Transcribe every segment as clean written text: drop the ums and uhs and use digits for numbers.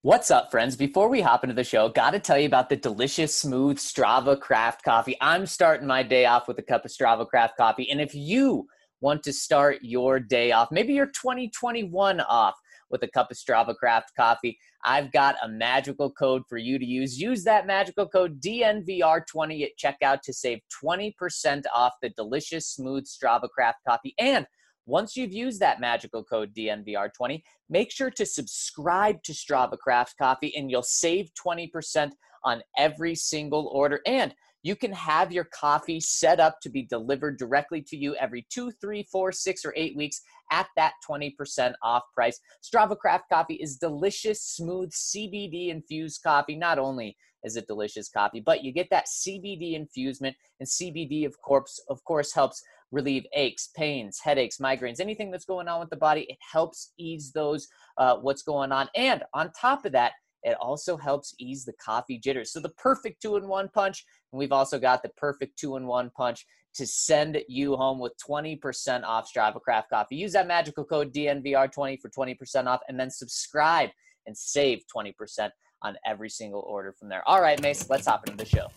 What's up, friends? Before we hop into the show, got to tell you about the delicious, smooth Strava Craft Coffee. I'm starting my day off with a cup of Strava Craft Coffee. And if you want to start your day off, maybe your 2021 off with a cup of Strava Craft Coffee, I've got a magical code for you to use. Use that magical code DNVR20 at checkout to save 20% off the delicious, smooth Strava Craft Coffee. And once you've used that magical code DNVR20, make sure to subscribe to Strava Craft Coffee and you'll save 20% on every single order. And you can have your coffee set up to be delivered directly to you every 2, 3, 4, 6, or 8 weeks at that 20% off price. Strava Craft Coffee is delicious, smooth, CBD-infused coffee. Not only is it delicious coffee, but you get that CBD infusement, and CBD, of course, helps relieve aches, pains, headaches, migraines, anything that's going on with the body. It helps ease those, what's going on. And on top of that, it also helps ease the coffee jitters. So the perfect 2-in-1 punch. And we've also got the perfect 2-in-1 punch to send you home with 20% off Strava Craft Coffee. Use that magical code DNVR20 for 20% off, and then subscribe and save 20% on every single order from there. All right, Mace, let's hop into the show.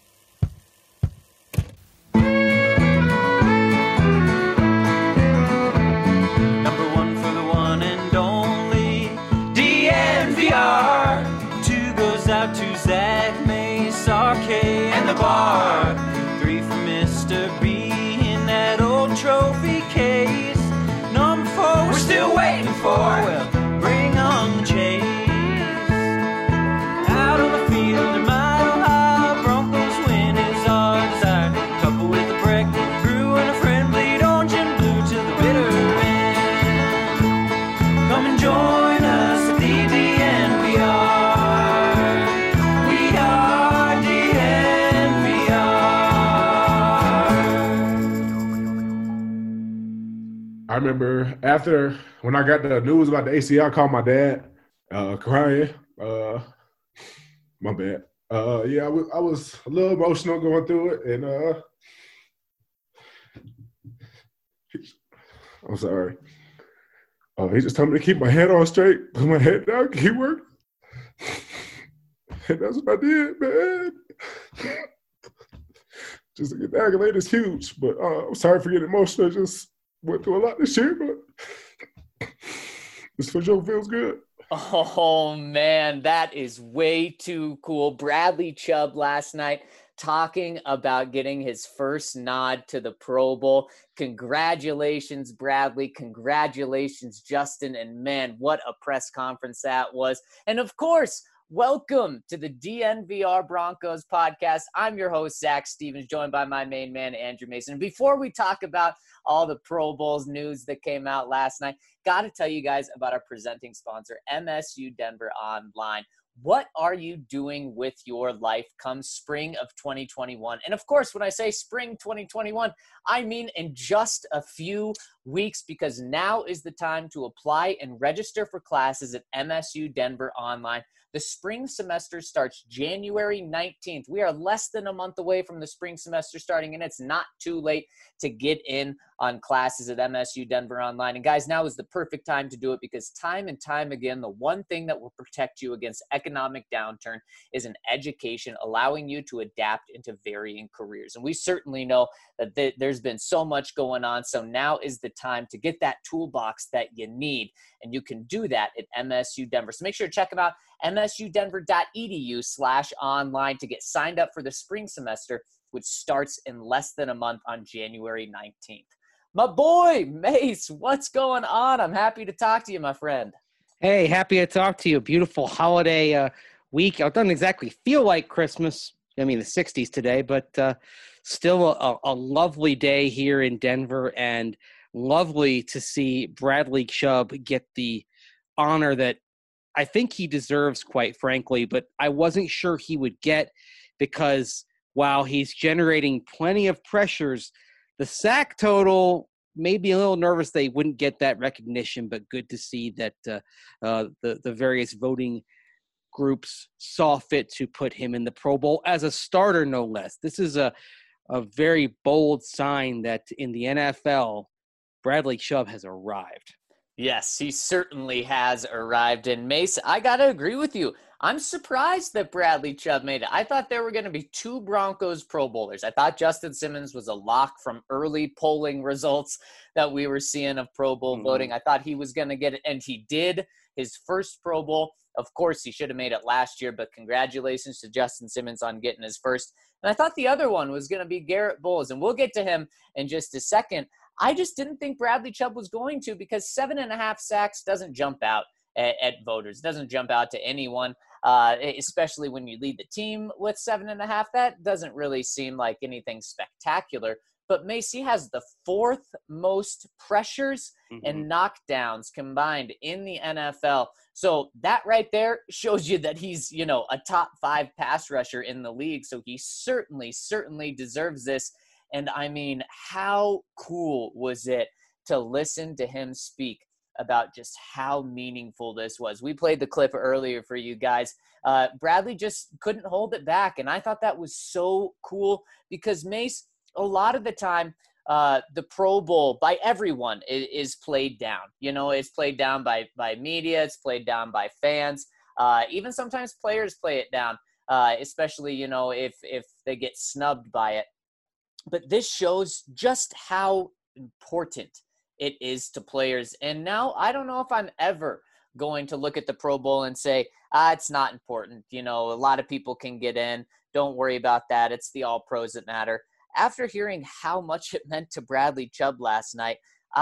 Number one for the one and only DNVR. Two goes out to Zach, Mace, RK, and the bar. Three for Mr. B in that old trophy case. Number four, we're still waiting for. Well, bring on the chase. Out on the field in Mile High, Broncos win is our desire. Couple with a break, brew and a friend, bleed orange and blue to the bitter end. Come and join us at the DNVR. We are DNVR. I remember when I got the news about the ACL, I called my dad, crying. My bad. Yeah, I was a little emotional going through it, and I'm sorry. He just told me to keep my head on straight, put my head down, keep working. And that's what I did, man. Just to get the accolade is huge, but I'm sorry for getting emotional. I just went through a lot this year, but this for sure feels good. Oh, man, that is way too cool. Bradley Chubb last night talking about getting his first nod to the Pro Bowl. Congratulations, Bradley. Congratulations, Justin. And, man, what a press conference that was. And, of course, welcome to the DNVR Broncos podcast. I'm your host, Zach Stevens, joined by my main man, Andrew Mason. Before we talk about all the Pro Bowls news that came out last night, got to tell you guys about our presenting sponsor, MSU Denver Online. What are you doing with your life come spring of 2021? And of course, when I say spring 2021, I mean in just a few weeks, because now is the time to apply and register for classes at MSU Denver Online. The spring semester starts January 19th. We are less than a month away from the spring semester starting, and it's not too late to get in on classes at MSU Denver Online. And guys, now is the perfect time to do it, because time and time again, the one thing that will protect you against economic downturn is an education allowing you to adapt into varying careers. And we certainly know that there's been so much going on. So now is the time to get that toolbox that you need. And you can do that at MSU Denver. So make sure to check them out, msudenver.edu/online, to get signed up for the spring semester, which starts in less than a month on January 19th. My boy, Mace, what's going on? I'm happy to talk to you, my friend. Hey, happy to talk to you. Beautiful holiday week. It doesn't exactly feel like Christmas. I mean, the 60s today, but still a lovely day here in Denver, and lovely to see Bradley Chubb get the honor that I think he deserves, quite frankly, but I wasn't sure he would get, because while he's generating plenty of pressures, the sack total made me a little nervous they wouldn't get that recognition, but good to see that the various voting groups saw fit to put him in the Pro Bowl as a starter, no less. This is a very bold sign that in the NFL, Bradley Chubb has arrived. Yes, he certainly has arrived. And Mace, I got to agree with you. I'm surprised that Bradley Chubb made it. I thought there were going to be 2 Broncos Pro Bowlers. I thought Justin Simmons was a lock from early polling results that we were seeing of Pro Bowl voting. I thought he was going to get it, and he did. His first Pro Bowl. Of course, he should have made it last year, but congratulations to Justin Simmons on getting his first. And I thought the other one was going to be Garrett Bowles, and we'll get to him in just a second. I just didn't think Bradley Chubb was going to, because 7.5 sacks doesn't jump out at voters. It doesn't jump out to anyone, especially when you lead the team with 7.5. That doesn't really seem like anything spectacular. But Macy has the 4th most pressures and knockdowns combined in the NFL. So that right there shows you that he's, a top 5 pass rusher in the league. So he certainly deserves this. And I mean, how cool was it to listen to him speak about just how meaningful this was? We played the clip earlier for you guys. Bradley just couldn't hold it back. And I thought that was so cool, because Mace, a lot of the time, the Pro Bowl by everyone is played down. It's played down by media. It's played down by fans. Even sometimes players play it down, especially, if they get snubbed by it. But this shows just how important it is to players. And now I don't know if I'm ever going to look at the Pro Bowl and say, it's not important. A lot of people can get in. Don't worry about that. It's the all pros that matter. After hearing how much it meant to Bradley Chubb last night,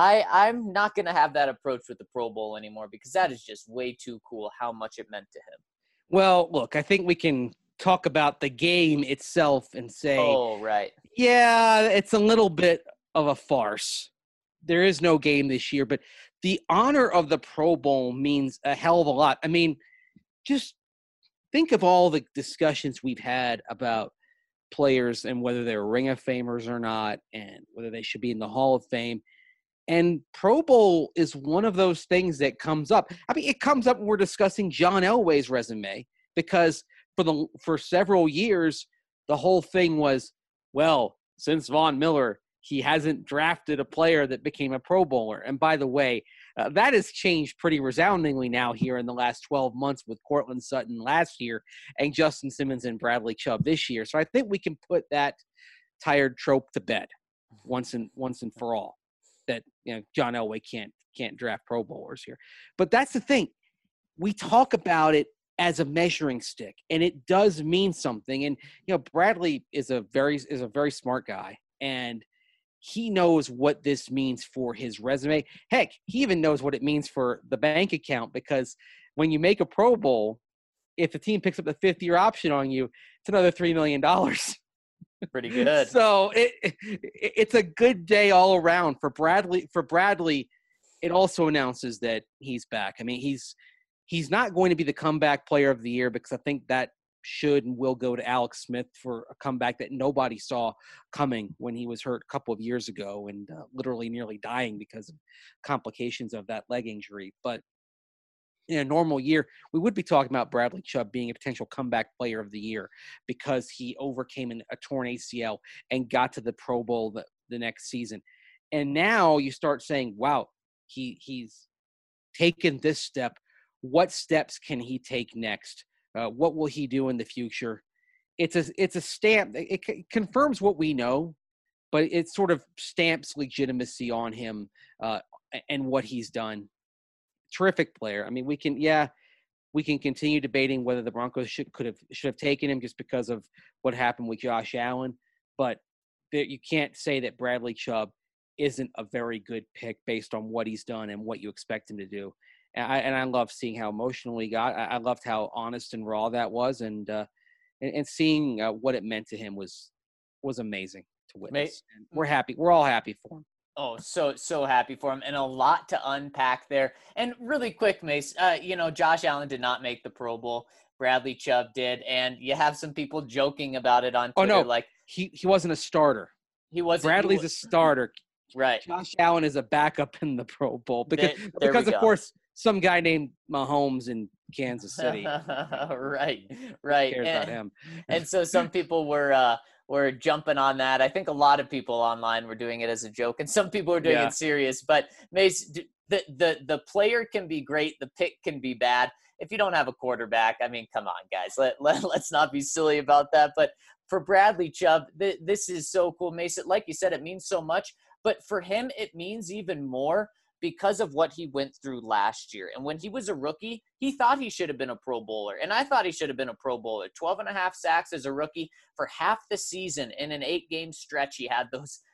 I'm not going to have that approach with the Pro Bowl anymore, because that is just way too cool how much it meant to him. Well, look, I think we can talk about the game itself and say, oh, right. Yeah, it's a little bit of a farce. There is no game this year, but the honor of the Pro Bowl means a hell of a lot. I mean, just think of all the discussions we've had about players and whether they're Ring of Famers or not, and whether they should be in the Hall of Fame. And Pro Bowl is one of those things that comes up. I mean, it comes up when we're discussing John Elway's resume, because for several years, the whole thing was, well, since Von Miller, he hasn't drafted a player that became a Pro Bowler. And by the way, that has changed pretty resoundingly now here in the last 12 months with Cortland Sutton last year and Justin Simmons and Bradley Chubb this year. So I think we can put that tired trope to bed once and for all, that John Elway can't draft Pro Bowlers here. But that's the thing. We talk about it as a measuring stick, and it does mean something. And Bradley is a very smart guy, and he knows what this means for his resume. Heck, he even knows what it means for the bank account, because when you make a Pro Bowl, if the team picks up the 5th-year option on you, it's another $3 million. Pretty good. So it's a good day all around for Bradley. For Bradley, it also announces that he's back. I mean, he's not going to be the comeback player of the year, because I think that should and will go to Alex Smith for a comeback that nobody saw coming when he was hurt a couple of years ago and literally nearly dying because of complications of that leg injury. But in a normal year, we would be talking about Bradley Chubb being a potential comeback player of the year, because he overcame a torn ACL and got to the Pro Bowl the next season. And now you start saying, wow, he's taken this step. What steps can he take next? What will he do in the future? It's a stamp. It confirms what we know, but it sort of stamps legitimacy on him and what he's done. Terrific player. I mean, we can continue debating whether the Broncos should have taken him just because of what happened with Josh Allen, but you can't say that Bradley Chubb isn't a very good pick based on what he's done and what you expect him to do. And I love seeing how emotional he got. I loved how honest and raw that was, and seeing what it meant to him was amazing to witness. And we're happy. We're all happy for him. Oh, so happy for him, and a lot to unpack there. And really quick, Mace, Josh Allen did not make the Pro Bowl. Bradley Chubb did, and you have some people joking about it on Twitter. Oh, no, like he wasn't a starter. He wasn't. Bradley's a starter. Right. Josh Allen is a backup in the Pro Bowl because of course, some guy named Mahomes in Kansas City. Right. Who cares about him? And so some people were were jumping on that. I think a lot of people online were doing it as a joke, and some people were doing it serious. But Mace, the player can be great, the pick can be bad. If you don't have a quarterback, I mean, come on, guys. Let's not be silly about that. But for Bradley Chubb, this is so cool, Mason. Like you said, it means so much. But for him, it means even more because of what he went through last year. And when he was a rookie, he thought he should have been a Pro Bowler. And I thought he should have been a Pro Bowler. 12.5 sacks as a rookie for half the season. In an 8-game stretch, he had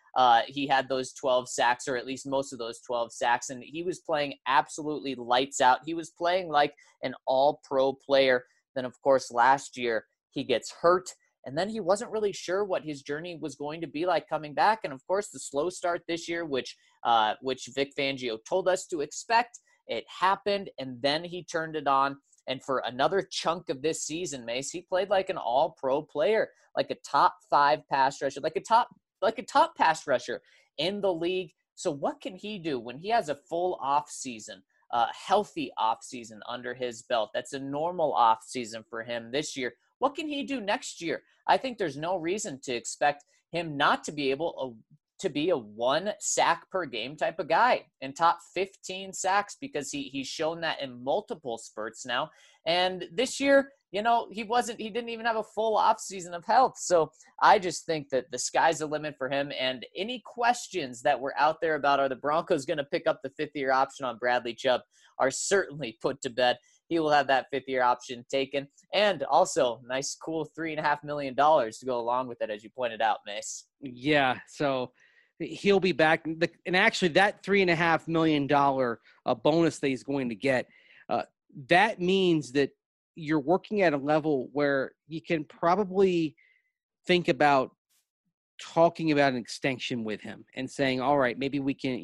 those 12 sacks, or at least most of those 12 sacks. And he was playing absolutely lights out. He was playing like an all-pro player. Then, of course, last year he gets hurt. And then he wasn't really sure what his journey was going to be like coming back. And, of course, the slow start this year, which Vic Fangio told us to expect, it happened, and then he turned it on. And for another chunk of this season, Mace, he played like an all-pro player, like a top 5 pass rusher, like a top pass rusher in the league. So what can he do when he has a full off season, healthy off season under his belt? That's a normal off season for him this year. What can he do next year? I think there's no reason to expect him not to be able to be a 1 sack per game type of guy and top 15 sacks, because he's shown that in multiple spurts now. And this year, he didn't even have a full off season of health. So I just think that the sky's the limit for him. And any questions that were out there about, are the Broncos going to pick up the 5th-year option on Bradley Chubb, are certainly put to bed. He will have that 5th-year option taken. And also nice, cool $3.5 million to go along with it, as you pointed out, Mace. Yeah. So he'll be back. And actually that $3.5 million bonus that he's going to get, that means that you're working at a level where you can probably think about talking about an extension with him and saying, all right, maybe we can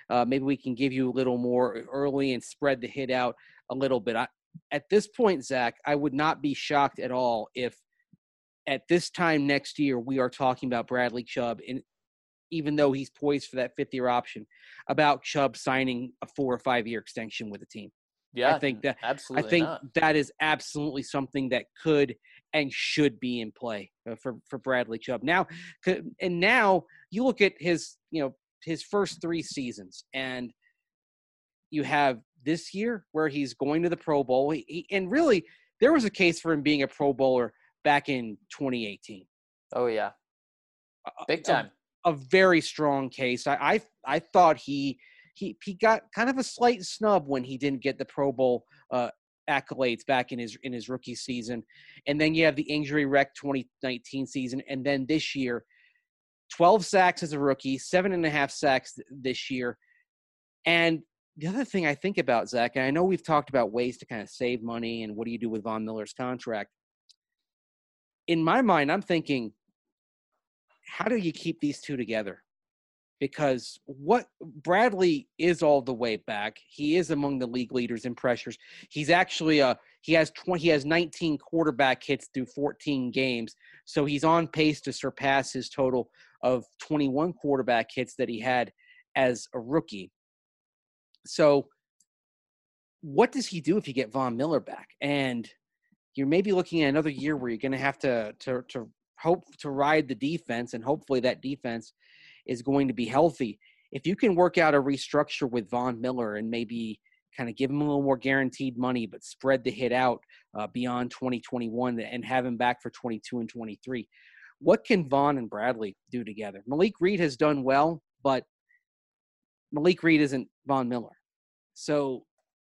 give you a little more early and spread the hit out a little bit. At this point, Zach, I would not be shocked at all if at this time next year we are talking about Bradley Chubb, and even though he's poised for that 5th-year option, about Chubb signing a 4 or 5 year extension with the team. Yeah, I think absolutely. That is absolutely something that could and should be in play for Bradley Chubb. Now you look at his first 3 seasons, and you have this year where he's going to the Pro Bowl. And really, there was a case for him being a Pro Bowler back in 2018. Oh yeah, big time. A very strong case. I thought he got kind of a slight snub when he didn't get the Pro Bowl accolades back in his rookie season. And then you have the injury wreck 2019 season. And then this year, 12 sacks as a rookie, 7.5 sacks this year. And the other thing I think about, Zach, and I know we've talked about ways to kind of save money and what do you do with Von Miller's contract. In my mind, I'm thinking, how do you keep these two together? Because what Bradley is all the way back. He is among the league leaders in pressures. He's actually he has 19 quarterback hits through 14 games. So he's on pace to surpass his total of 21 quarterback hits that he had as a rookie. So what does he do if you get Von Miller back? And you're maybe looking at another year where you're going to have to hope to ride the defense, and hopefully that defense is going to be healthy. If you can work out a restructure with Von Miller and maybe kind of give him a little more guaranteed money, but spread the hit out beyond 2021 and have him back for 22 and 23, what can Von and Bradley do together? Malik Reed has done well, but Malik Reed isn't Von Miller. So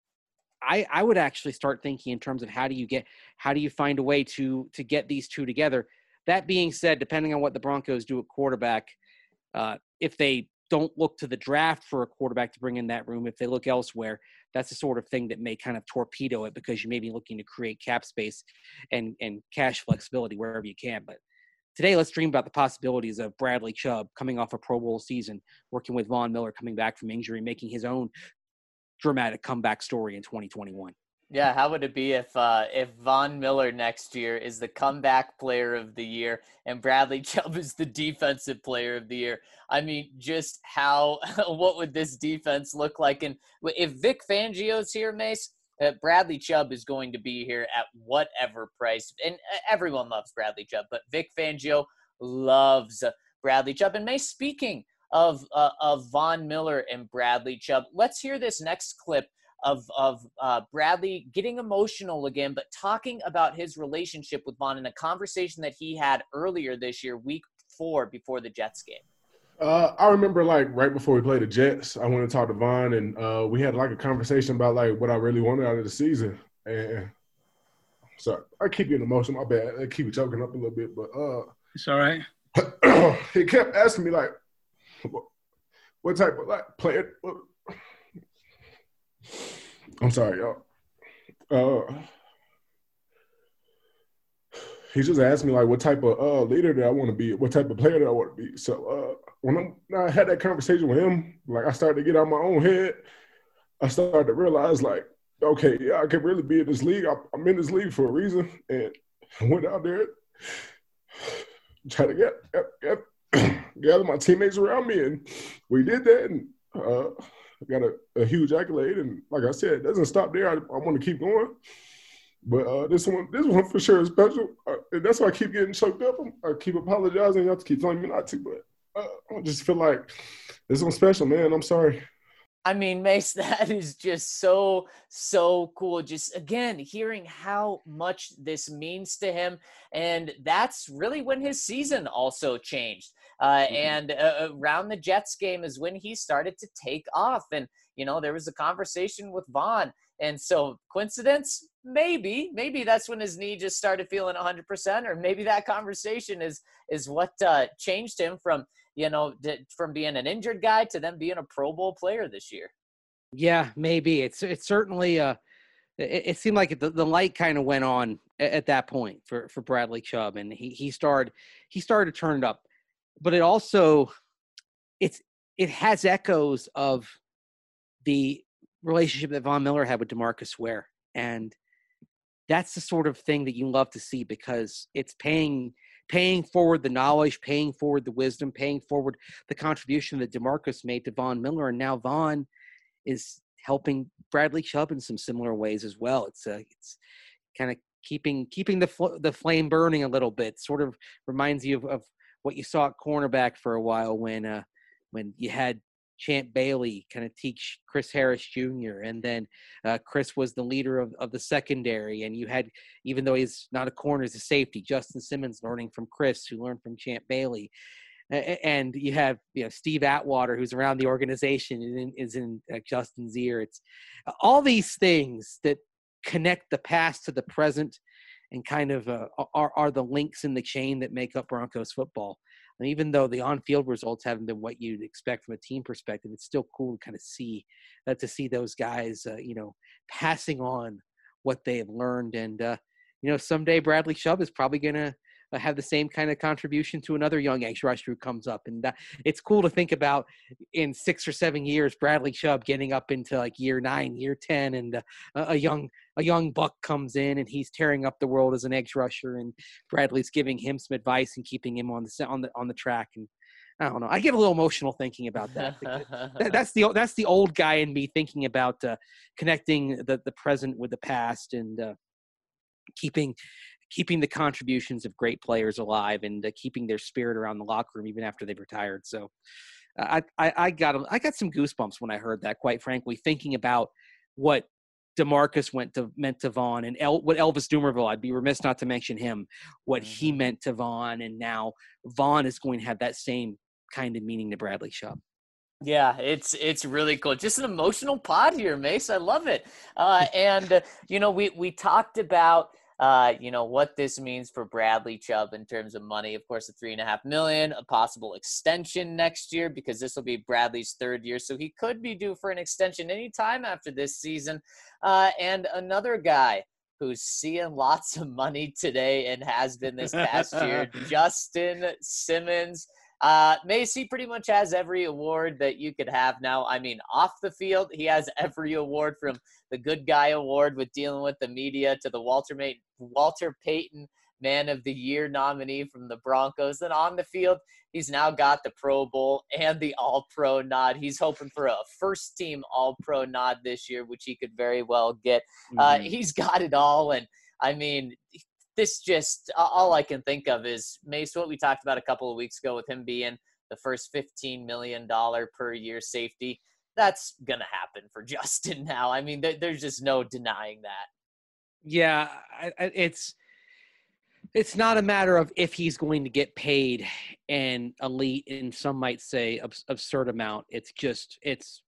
I would actually start thinking in terms of how do you find a way to get these two together. That being said, depending on what the Broncos do at quarterback, if they don't look to the draft for a quarterback to bring in that room, if they look elsewhere, that's the sort of thing that may kind of torpedo it, because you may be looking to create cap space and cash flexibility wherever you can. But today, let's dream about the possibilities of Bradley Chubb coming off a Pro Bowl season, working with Von Miller coming back from injury, making his own dramatic comeback story in 2021. Yeah, how would it be if Von Miller next year is the comeback player of the year and Bradley Chubb is the defensive player of the year? I mean, just what would this defense look like? And if Vic Fangio's here, Mace, Bradley Chubb is going to be here at whatever price. And everyone loves Bradley Chubb, but Vic Fangio loves Bradley Chubb. And May, speaking of Von Miller and Bradley Chubb, let's hear this next clip of Bradley getting emotional again, but talking about his relationship with Von in a conversation that he had earlier this year, week 4, before the Jets game. I remember, like, right before we played the Jets, I went and talked to Von, and we had, like, a conversation about, like, what I really wanted out of the season. And sorry, I keep getting emotional. My bad. I keep choking up a little bit, but it's all right. He kept asking me, like, what type of, like, player – I'm sorry, y'all. He just asked me, like, what type of leader that I want to be, what type of player that I want to be. So when I had that conversation with him, like, I started to get out of my own head. I started to realize, like, okay, yeah, I could really be in this league. I'm in this league for a reason. And I went out there, try to gather my teammates around me, and we did that, and got a huge accolade. And like I said, it doesn't stop there. I want to keep going. But this one for sure is special. And that's why I keep getting choked up. I keep apologizing. You have to keep telling me not to. But I just feel like this one's special, man. I'm sorry. I mean, Mace, that is just so cool. Just, again, hearing how much this means to him. And that's really when his season also changed. And around the Jets game is when he started to take off. And, you know, there was a conversation with Von. And so, coincidence? Maybe that's when his knee just started feeling 100%, or maybe that conversation is what changed him from, you know, from being an injured guy to then being a Pro Bowl player this year. Yeah, maybe. It's certainly it seemed like the light kind of went on at that point for Bradley Chubb, and he started to turn it up. But it also it has echoes of the relationship that Von Miller had with DeMarcus Ware, and that's the sort of thing that you love to see, because it's paying forward the knowledge, paying forward the wisdom, paying forward the contribution that DeMarcus made to Von Miller, and now Von is helping Bradley Chubb in some similar ways as well. It's kind of keeping the flame burning a little bit. Sort of reminds you of what you saw at cornerback for a while when you had Champ Bailey kind of teach Chris Harris Jr. And then Chris was the leader of the secondary. And you had, even though he's not a corner, he's a safety, Justin Simmons learning from Chris, who learned from Champ Bailey. And you have, you know, Steve Atwater, who's around the organization and is in Justin's ear. It's all these things that connect the past to the present and kind of are the links in the chain that make up Broncos football. And even though the on-field results haven't been what you'd expect from a team perspective, it's still cool to kind of see those guys, you know, passing on what they have learned. And, you know, someday Bradley Chubb is probably going to have the same kind of contribution to another young edge rusher who comes up. And it's cool to think about in 6 or 7 years, Bradley Chubb getting up into like year 9, year 10, and a young buck comes in and he's tearing up the world as an edge rusher, and Bradley's giving him some advice and keeping him on the track. And I don't know, I get a little emotional thinking about that. That's the old guy in me thinking about connecting the present with the past, and keeping the contributions of great players alive, and keeping their spirit around the locker room even after they've retired. So I got some goosebumps when I heard that, quite frankly, thinking about what DeMarcus meant to Von, and what Elvis Dumervil, I'd be remiss not to mention him, what he meant to Von, and now Von is going to have that same kind of meaning to Bradley Chubb. Yeah, it's really cool. Just an emotional pod here, Mace. I love it. And you know, we talked about you know, what this means for Bradley Chubb in terms of money. Of course, the $3.5 million, a possible extension next year, because this will be Bradley's 3rd year. So he could be due for an extension anytime after this season. And another guy who's seeing lots of money today and has been this past year, Justin Simmons. Macy pretty much has every award that you could have now. I mean, off the field, he has every award, from the Good Guy Award with dealing with the media to the Walter Payton Man of the Year nominee from the Broncos. Then on the field, he's now got the Pro Bowl and the All-Pro nod. He's hoping for a first-team All-Pro nod this year, which he could very well get. He's got it all, and I mean, this just all I can think of is Mace, what we talked about a couple of weeks ago with him being the first $15 million per year safety. That's going to happen for Justin now. I mean, there's just no denying that. Yeah, it's not a matter of if he's going to get paid an elite, and some might say absurd amount. It's just it's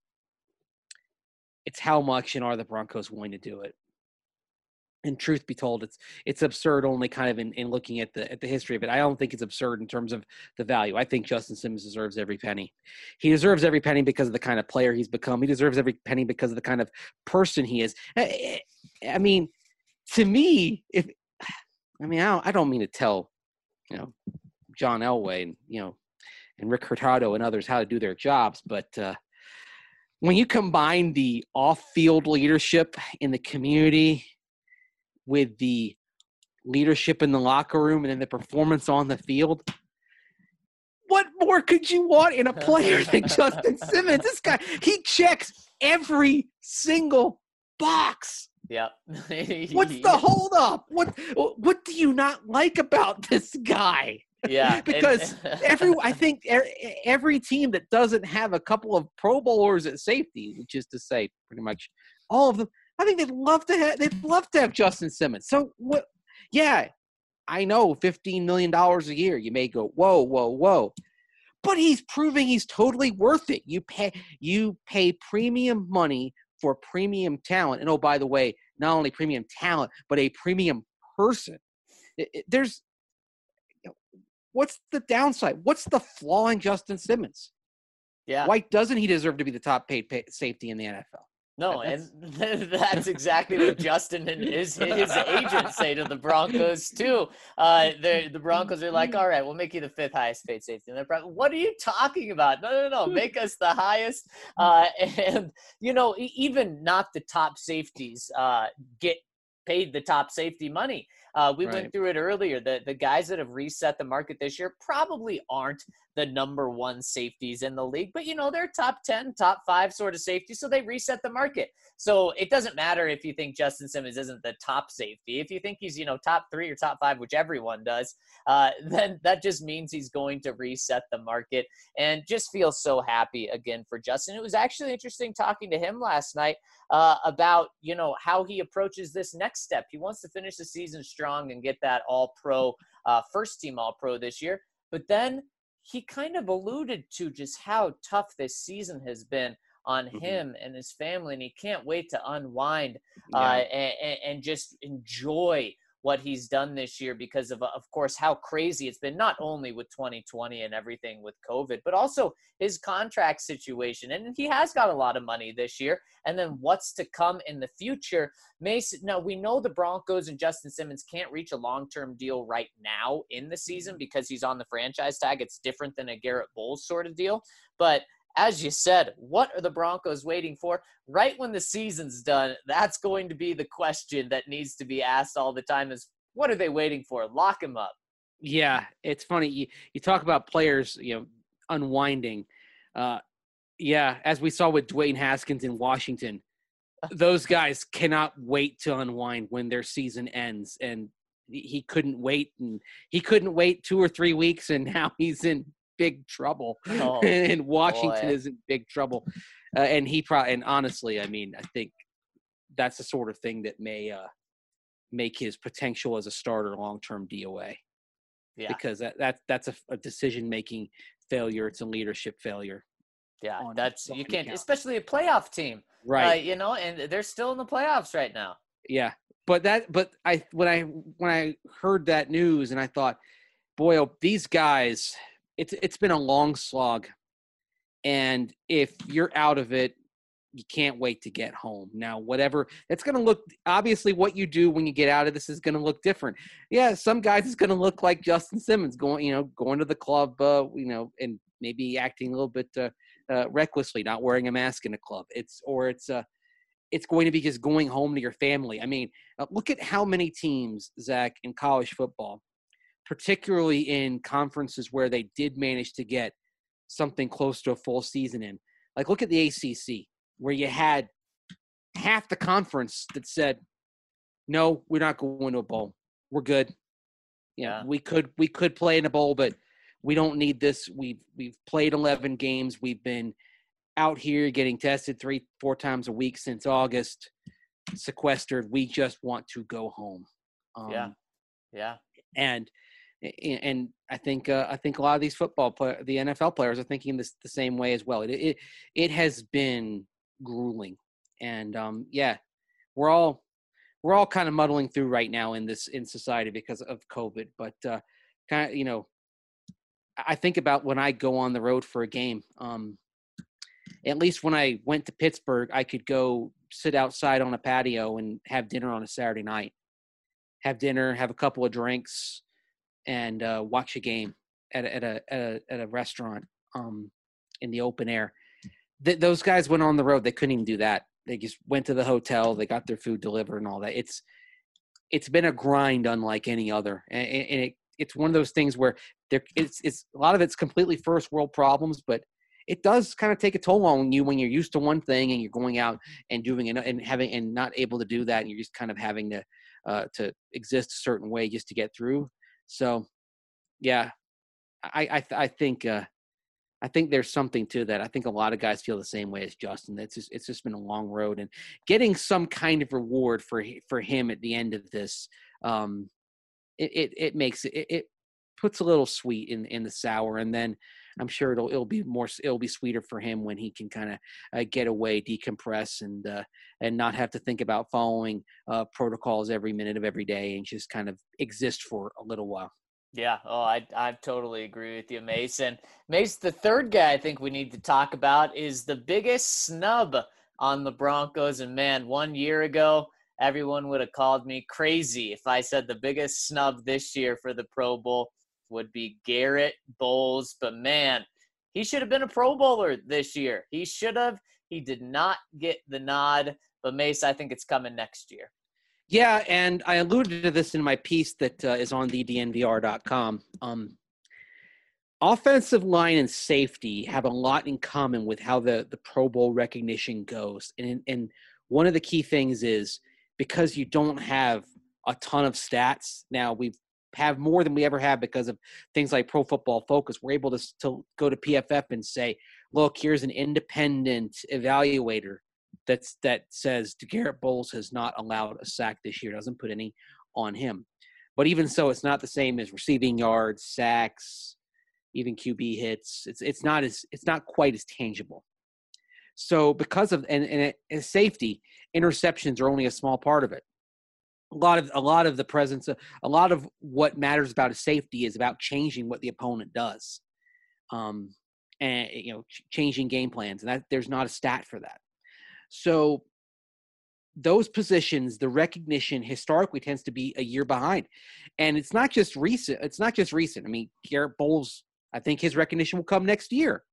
how much, and are the Broncos willing to do it? And truth be told, it's absurd only kind of in looking at the history of it. I don't think it's absurd in terms of the value. I think Justin Simmons deserves every penny. He deserves every penny because of the kind of player he's become. He deserves every penny because of the kind of person he is. I mean, to me, I don't mean to tell, John Elway and, and Rick Hurtado and others how to do their jobs, but when you combine the off-field leadership in the community with the leadership in the locker room and then the performance on the field, what more could you want in a player than Justin Simmons? This guy, he checks every single box. Yeah. What's the holdup? What do you not like about this guy? Yeah. Because I think every team that doesn't have a couple of Pro Bowlers at safety, which is to say pretty much all of them, I think they'd love to have Justin Simmons. So what? Yeah, I know $15 million a year. You may go, whoa. But he's proving he's totally worth it. You pay premium money for premium talent. And oh, by the way, not only premium talent, but a premium person. What's the downside? What's the flaw in Justin Simmons? Yeah. Why doesn't he deserve to be the top paid safety in the NFL? No, and that's exactly what Justin and his agents say to the Broncos too. The Broncos are like, all right, we'll make you the 5th highest paid safety. And what are you talking about? No, make us the highest. And even not the top safeties get paid the top safety money. We went through it earlier. The guys that have reset the market this year probably aren't the number 1 safeties in the league, but they're top 10, top 5 sort of safety. So they reset the market. So it doesn't matter if you think Justin Simmons isn't the top safety. If you think he's, top 3 or top 5, which everyone does, then that just means he's going to reset the market, and just feel so happy again for Justin. It was actually interesting talking to him last night about, how he approaches this next step. He wants to finish the season strong and get that all-pro, first-team all-pro this year. But then he kind of alluded to just how tough this season has been on him and his family, and he can't wait to unwind and just enjoy what he's done this year because of course, how crazy it's been, not only with 2020 and everything with COVID, but also his contract situation. And he has got a lot of money this year. And then what's to come in the future. Mason, now we know the Broncos and Justin Simmons can't reach a long-term deal right now in the season because he's on the franchise tag. It's different than a Garrett Bowles sort of deal. But as you said, what are the Broncos waiting for? Right when the season's done, that's going to be the question that needs to be asked all the time is, what are they waiting for? Lock him up. Yeah, it's funny. You talk about players, unwinding. As we saw with Dwayne Haskins in Washington, those guys cannot wait to unwind when their season ends. And he couldn't wait. And he couldn't wait 2 or 3 weeks, and now he's in big trouble. And Washington is in big trouble. And honestly, I think that's the sort of thing that may make his potential as a starter long-term DOA. Yeah. Because that's a decision-making failure. It's a leadership failure. Yeah, you can't, especially a playoff team. Right. And they're still in the playoffs right now. Yeah. When I heard that news and I thought, boy, these guys, it's been a long slog, and if you're out of it, you can't wait to get home. Now, whatever it's going to look, obviously what you do when you get out of this is going to look different. Yeah, some guys it's going to look like Justin Simmons going to the club, and maybe acting a little bit recklessly, not wearing a mask in a club. It's going to be just going home to your family. Look at how many teams, Zach, in college football, particularly in conferences where they did manage to get something close to a full season in. Like, look at the ACC, where you had half the conference that said, no, we're not going to a bowl. we're good. Yeah. We could play in a bowl, but we don't need this. We've played 11 games. We've been out here getting tested 3-4 times a week since August, sequestered. We just want to go home. Yeah. And I think a lot of these the NFL players are thinking this the same way as well. It has been grueling, and we're all kind of muddling through right now in society because of COVID. But I think about when I go on the road for a game. At least when I went to Pittsburgh, I could go sit outside on a patio and have dinner on a Saturday night. Have dinner, have a couple of drinks, and watch a game at a restaurant in the open air. Those guys went on the road. They couldn't even do that. They just went to the hotel. They got their food delivered and all that. It's been a grind unlike any other, and it's one of those things where it's a lot of it's completely first world problems, but it does kind of take a toll on you when you're used to one thing and you're going out and doing it and not able to do that, and you're just kind of having to exist a certain way just to get through. So, yeah, I think there's something to that. I think a lot of guys feel the same way as Justin. It's just been a long road, and getting some kind of reward for him at the end of this, it makes it puts a little sweet in the sour, and then I'm sure it'll be sweeter for him when he can kind of get away, decompress, and not have to think about following protocols every minute of every day and just kind of exist for a little while. Yeah. Oh, I totally agree with you, Mason. Mace, the third guy I think we need to talk about is the biggest snub on the Broncos. And man, 1 year ago, everyone would have called me crazy if I said the biggest snub this year for the Pro Bowl would be Garett Bolles. But man, he should have been a Pro Bowler this year. He should have. He did not get the nod. But Mace, I think it's coming next year. Yeah, and I alluded to this in my piece that is on thednvr.com. Offensive line and safety have a lot in common with how the Pro Bowl recognition goes. And one of the key things is because you don't have a ton of stats. Now, we have more than we ever have because of things like Pro Football Focus. We're able to go to PFF and say, look, here's an independent evaluator that says Garett Bolles has not allowed a sack this year, doesn't put any on him. But even so, it's not the same as receiving yards, sacks, even QB hits. It's not quite as tangible. So because of and safety, interceptions are only a small part of it. A lot of the presence, a lot of what matters about a safety is about changing what the opponent does, and changing game plans, and that there's not a stat for that. So those positions, the recognition historically tends to be a year behind. And it's not just recent. I mean, Garett Bolles, I think his recognition will come next year.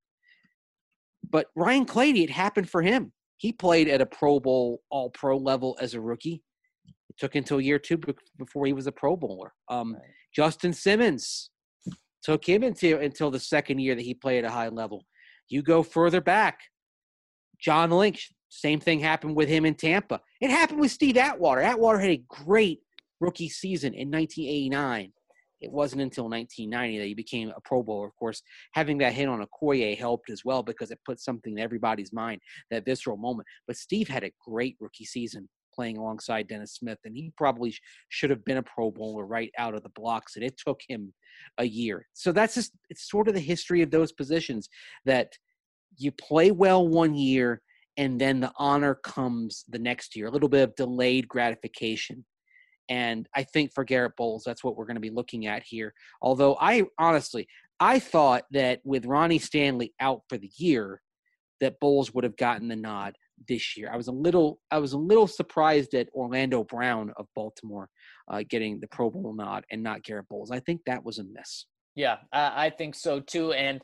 But Ryan Clady, it happened for him. He played at a Pro Bowl, all-pro level as a rookie. It took until year 2 before he was a Pro Bowler. Right. Justin Simmons took him until the second year that he played at a high level. You go further back, John Lynch, same thing happened with him in Tampa. It happened with Steve Atwater. Atwater had a great rookie season in 1989. It wasn't until 1990 that he became a Pro Bowler. Of course, having that hit on Okoye helped as well because it put something in everybody's mind, that visceral moment. But Steve had a great rookie season playing alongside Dennis Smith, and he probably should have been a Pro Bowler right out of the blocks, and it took him a year. So that's just – it's sort of the history of those positions, that you play well 1 year, and then the honor comes the next year, a little bit of delayed gratification. And I think for Garett Bolles, that's what we're going to be looking at here. Although I thought that with Ronnie Stanley out for the year, that Bolles would have gotten the nod this year. I was a little surprised at Orlando Brown of Baltimore getting the Pro Bowl nod and not Garett Bolles. I think that was a miss. Yeah, I think so too. And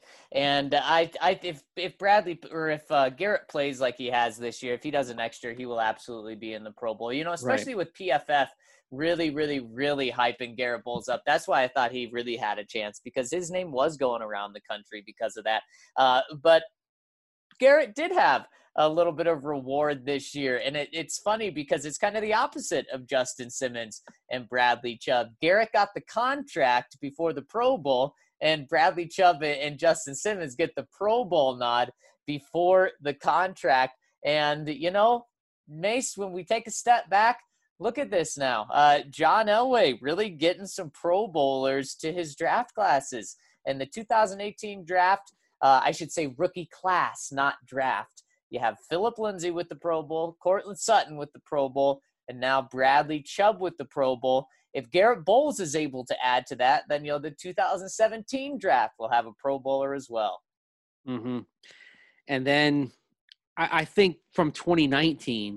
if Bradley or if Garett plays like he has this year, if he does it next year, he will absolutely be in the Pro Bowl. Especially with PFF really, really, really hyping Garett Bolles up. That's why I thought he really had a chance, because his name was going around the country because of that. But Garett did have a little bit of reward this year. And it's funny because it's kind of the opposite of Justin Simmons and Bradley Chubb. Garrett got the contract before the Pro Bowl, and Bradley Chubb and Justin Simmons get the Pro Bowl nod before the contract. And, you know, Mace, when we take a step back, look at this now. John Elway really getting some Pro Bowlers to his draft classes. And the 2018 draft, I should say rookie class, not draft. You have Phillip Lindsay with the Pro Bowl, Cortland Sutton with the Pro Bowl, and now Bradley Chubb with the Pro Bowl. If Garrett Bowles is able to add to that, then, you know, the 2017 draft will have a Pro Bowler as well. Mm-hmm. And then I think from 2019,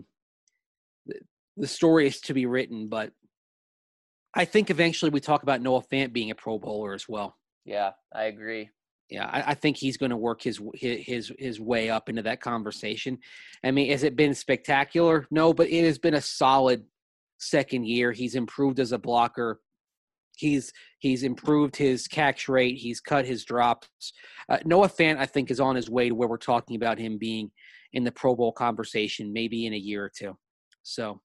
the story is to be written, but I think eventually we talk about Noah Fant being a Pro Bowler as well. Yeah, I agree. Yeah, I think he's going to work his way up into that conversation. I mean, has it been spectacular? No, but it has been a solid second year. He's improved as a blocker. He's improved his catch rate. He's cut his drops. Noah Fant, I think, is on his way to where we're talking about him being in the Pro Bowl conversation maybe in a year or two. So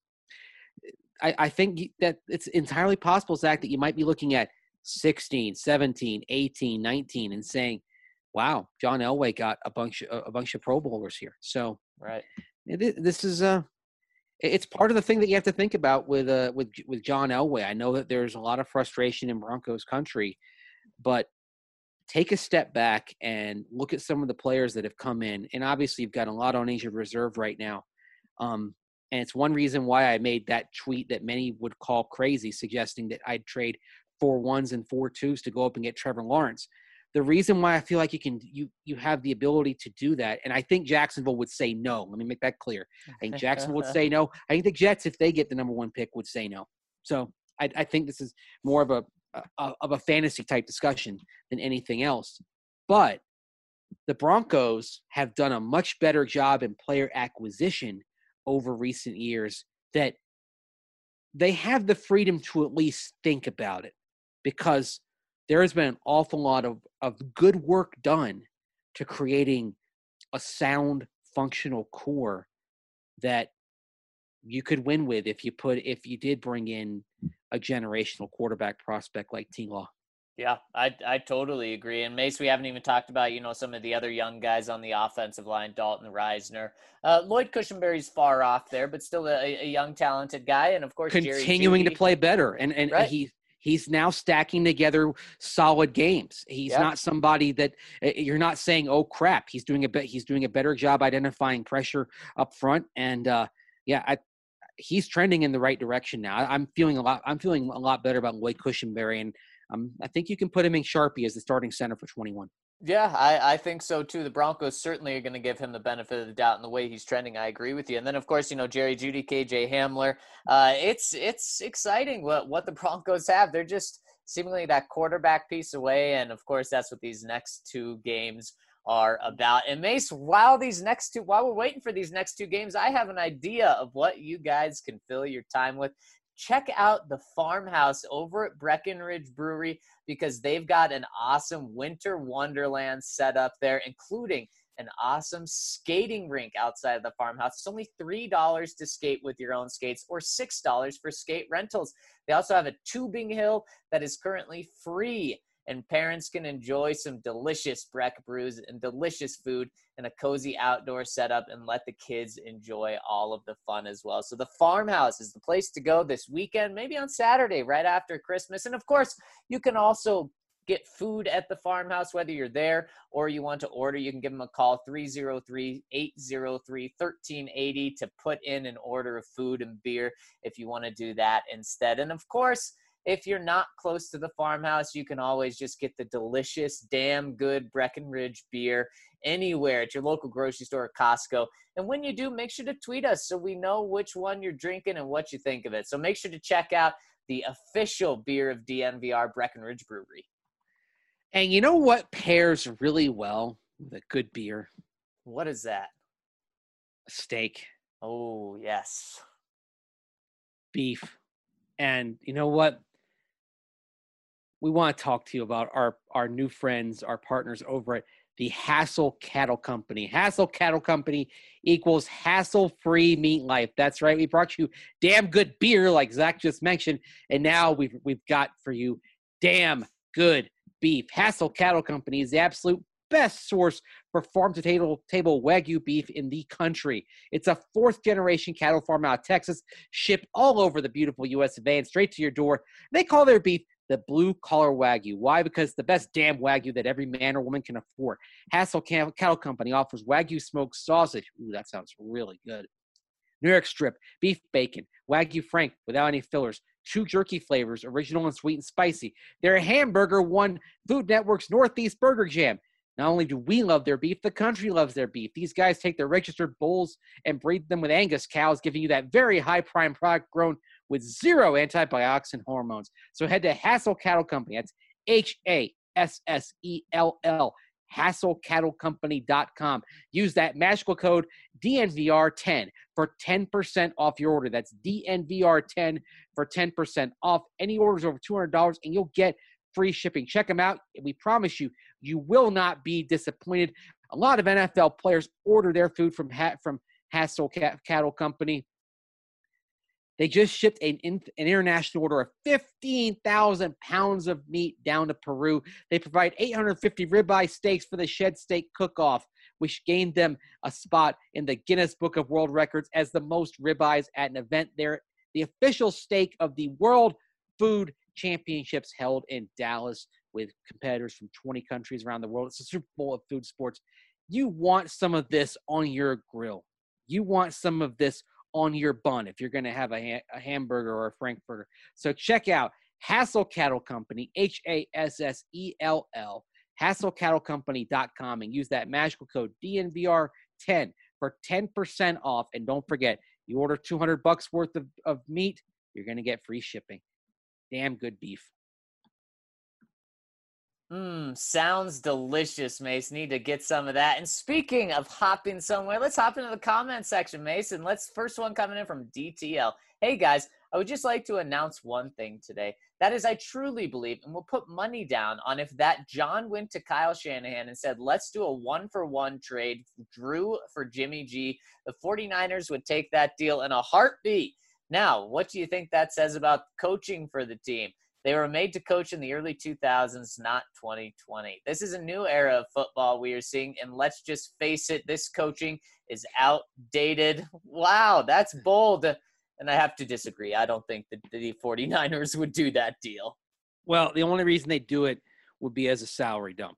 I think that it's entirely possible, Zach, that you might be looking at 16, 17, 18, 19 and saying, wow, John Elway got a bunch of Pro Bowlers here. So right. This is it's part of the thing that you have to think about with John Elway. I know that there's a lot of frustration in Broncos country, but take a step back and look at some of the players that have come in. And obviously you've got a lot on injured reserve right now. And it's one reason why I made that tweet that many would call crazy, suggesting that I'd trade 4 1s and 4 2s to go up and get Trevor Lawrence. The reason why I feel like you have the ability to do that, and I think Jacksonville would say no. Let me make that clear. I think Jacksonville would say no. I think the Jets, if they get the number 1 pick, would say no. So I think this is more of a fantasy type discussion than anything else. But the Broncos have done a much better job in player acquisition over recent years, that they have the freedom to at least think about it, because there has been an awful lot of good work done to creating a sound, functional core that you could win with if you did bring in a generational quarterback prospect like T-Law. Yeah, I totally agree. And Mace, we haven't even talked about, you know, some of the other young guys on the offensive line, Dalton Reisner. Lloyd Cushenberry's far off there, but still a young, talented guy. And, of course, continuing to play better. And right. He's now stacking together solid games. He's not somebody that you're not saying, oh, crap, he's doing a better job identifying pressure up front. And, he's trending in the right direction now. I'm feeling a lot better about Lloyd Cushenberry, and I think you can put him in Sharpie as the starting center for 21. Yeah, I think so too. The Broncos certainly are going to give him the benefit of the doubt in the way he's trending. I agree with you. And then, of course, you know, Jerry Jeudy, KJ Hamler. It's exciting what the Broncos have. They're just seemingly that quarterback piece away. And, of course, that's what these next 2 games are about. And Mace, while we're waiting for these next 2 games, I have an idea of what you guys can fill your time with. Check out the Farmhouse over at Breckenridge Brewery, because they've got an awesome winter wonderland set up there, including an awesome skating rink outside of the Farmhouse. It's only $3 to skate with your own skates, or $6 for skate rentals. They also have a tubing hill that is currently free, and parents can enjoy some delicious Breck brews and delicious food and a cozy outdoor setup, and let the kids enjoy all of the fun as well. So the Farmhouse is the place to go this weekend, maybe on Saturday right after Christmas. And of course, you can also get food at the Farmhouse, whether you're there or you want to order. You can give them a call, 303-803-1380, to put in an order of food and beer if you want to do that instead. And of course, if you're not close to the Farmhouse, you can always just get the delicious, damn good Breckenridge beer anywhere at your local grocery store or Costco. And when you do, make sure to tweet us so we know which one you're drinking and what you think of it. So make sure to check out the official beer of DNVR, Breckenridge Brewery. And you know what pairs really well with a good beer? What is that? A steak. Oh, yes. Beef. And you know what? We want to talk to you about our new friends, our partners over at the Hassel Cattle Company. Hassel Cattle Company equals hassle-free meat life. That's right. We brought you damn good beer, like Zach just mentioned, and now we've got for you damn good beef. Hassel Cattle Company is the absolute best source for farm-to-table Wagyu beef in the country. It's a fourth-generation cattle farm out of Texas, shipped all over the beautiful U.S. of A. and straight to your door. They call their beef the blue-collar Wagyu. Why? Because the best damn Wagyu that every man or woman can afford. Hassel Cattle Company offers Wagyu smoked sausage. Ooh, that sounds really good. New York strip, beef bacon, Wagyu Frank without any fillers, 2 jerky flavors, original and sweet and spicy. Their hamburger won Food Network's Northeast Burger Jam. Not only do we love their beef, the country loves their beef. These guys take their registered bulls and breed them with Angus cows, giving you that very high prime product grown with 0 antibiotics and hormones. So head to Hassel Cattle Company. That's HASSELL, HassleCattleCompany.com. Use that magical code DNVR10 for 10% off your order. That's DNVR10 for 10% off any orders over $200, and you'll get free shipping. Check them out. We promise you, you will not be disappointed. A lot of NFL players order their food from Hassel Cattle Company. They just shipped an international order of 15,000 pounds of meat down to Peru. They provide 850 ribeye steaks for the Shed Steak Cook-Off, which gained them a spot in the Guinness Book of World Records as the most ribeyes at an event there. The official steak of the World Food Championships held in Dallas with competitors from 20 countries around the world. It's a Super Bowl of food sports. You want some of this on your grill. You want some of this on your bun if you're going to have a hamburger or a frankfurter. So check out Hassel Cattle Company, HASSELL, HassleCattleCompany.com, and use that magical code DNVR10 for 10% off. And don't forget, you order $200 worth of meat, you're going to get free shipping. Damn good beef. Sounds delicious, Mace. Need to get some of that. And speaking of hopping somewhere, let's hop into the comment section, Mason. First one coming in from DTL. Hey, guys, I would just like to announce one thing today. That is, I truly believe, and we'll put money down on if that John went to Kyle Shanahan and said, let's do a 1-for-1 trade, Drew for Jimmy G. The 49ers would take that deal in a heartbeat. Now, what do you think that says about coaching for the team? They were made to coach in the early 2000s, not 2020. This is a new era of football we are seeing, and let's just face it, this coaching is outdated. Wow, that's bold. And I have to disagree. I don't think that the 49ers would do that deal. Well, the only reason they do it would be as a salary dump.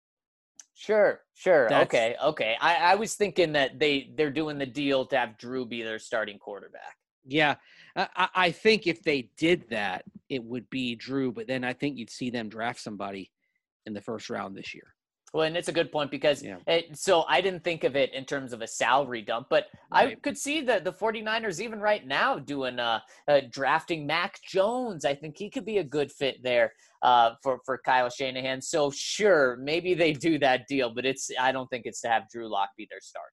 Sure. Okay. I was thinking that they're doing the deal to have Drew be their starting quarterback. Yeah, I think if they did that, it would be Drew, but then I think you'd see them draft somebody in the first round this year. Well, and it's a good point because so I didn't think of it in terms of a salary dump, but right. I could see the 49ers even right now doing drafting Mac Jones. I think he could be a good fit there for Kyle Shanahan. So sure, maybe they do that deal, but I don't think it's to have Drew Lock be their starter.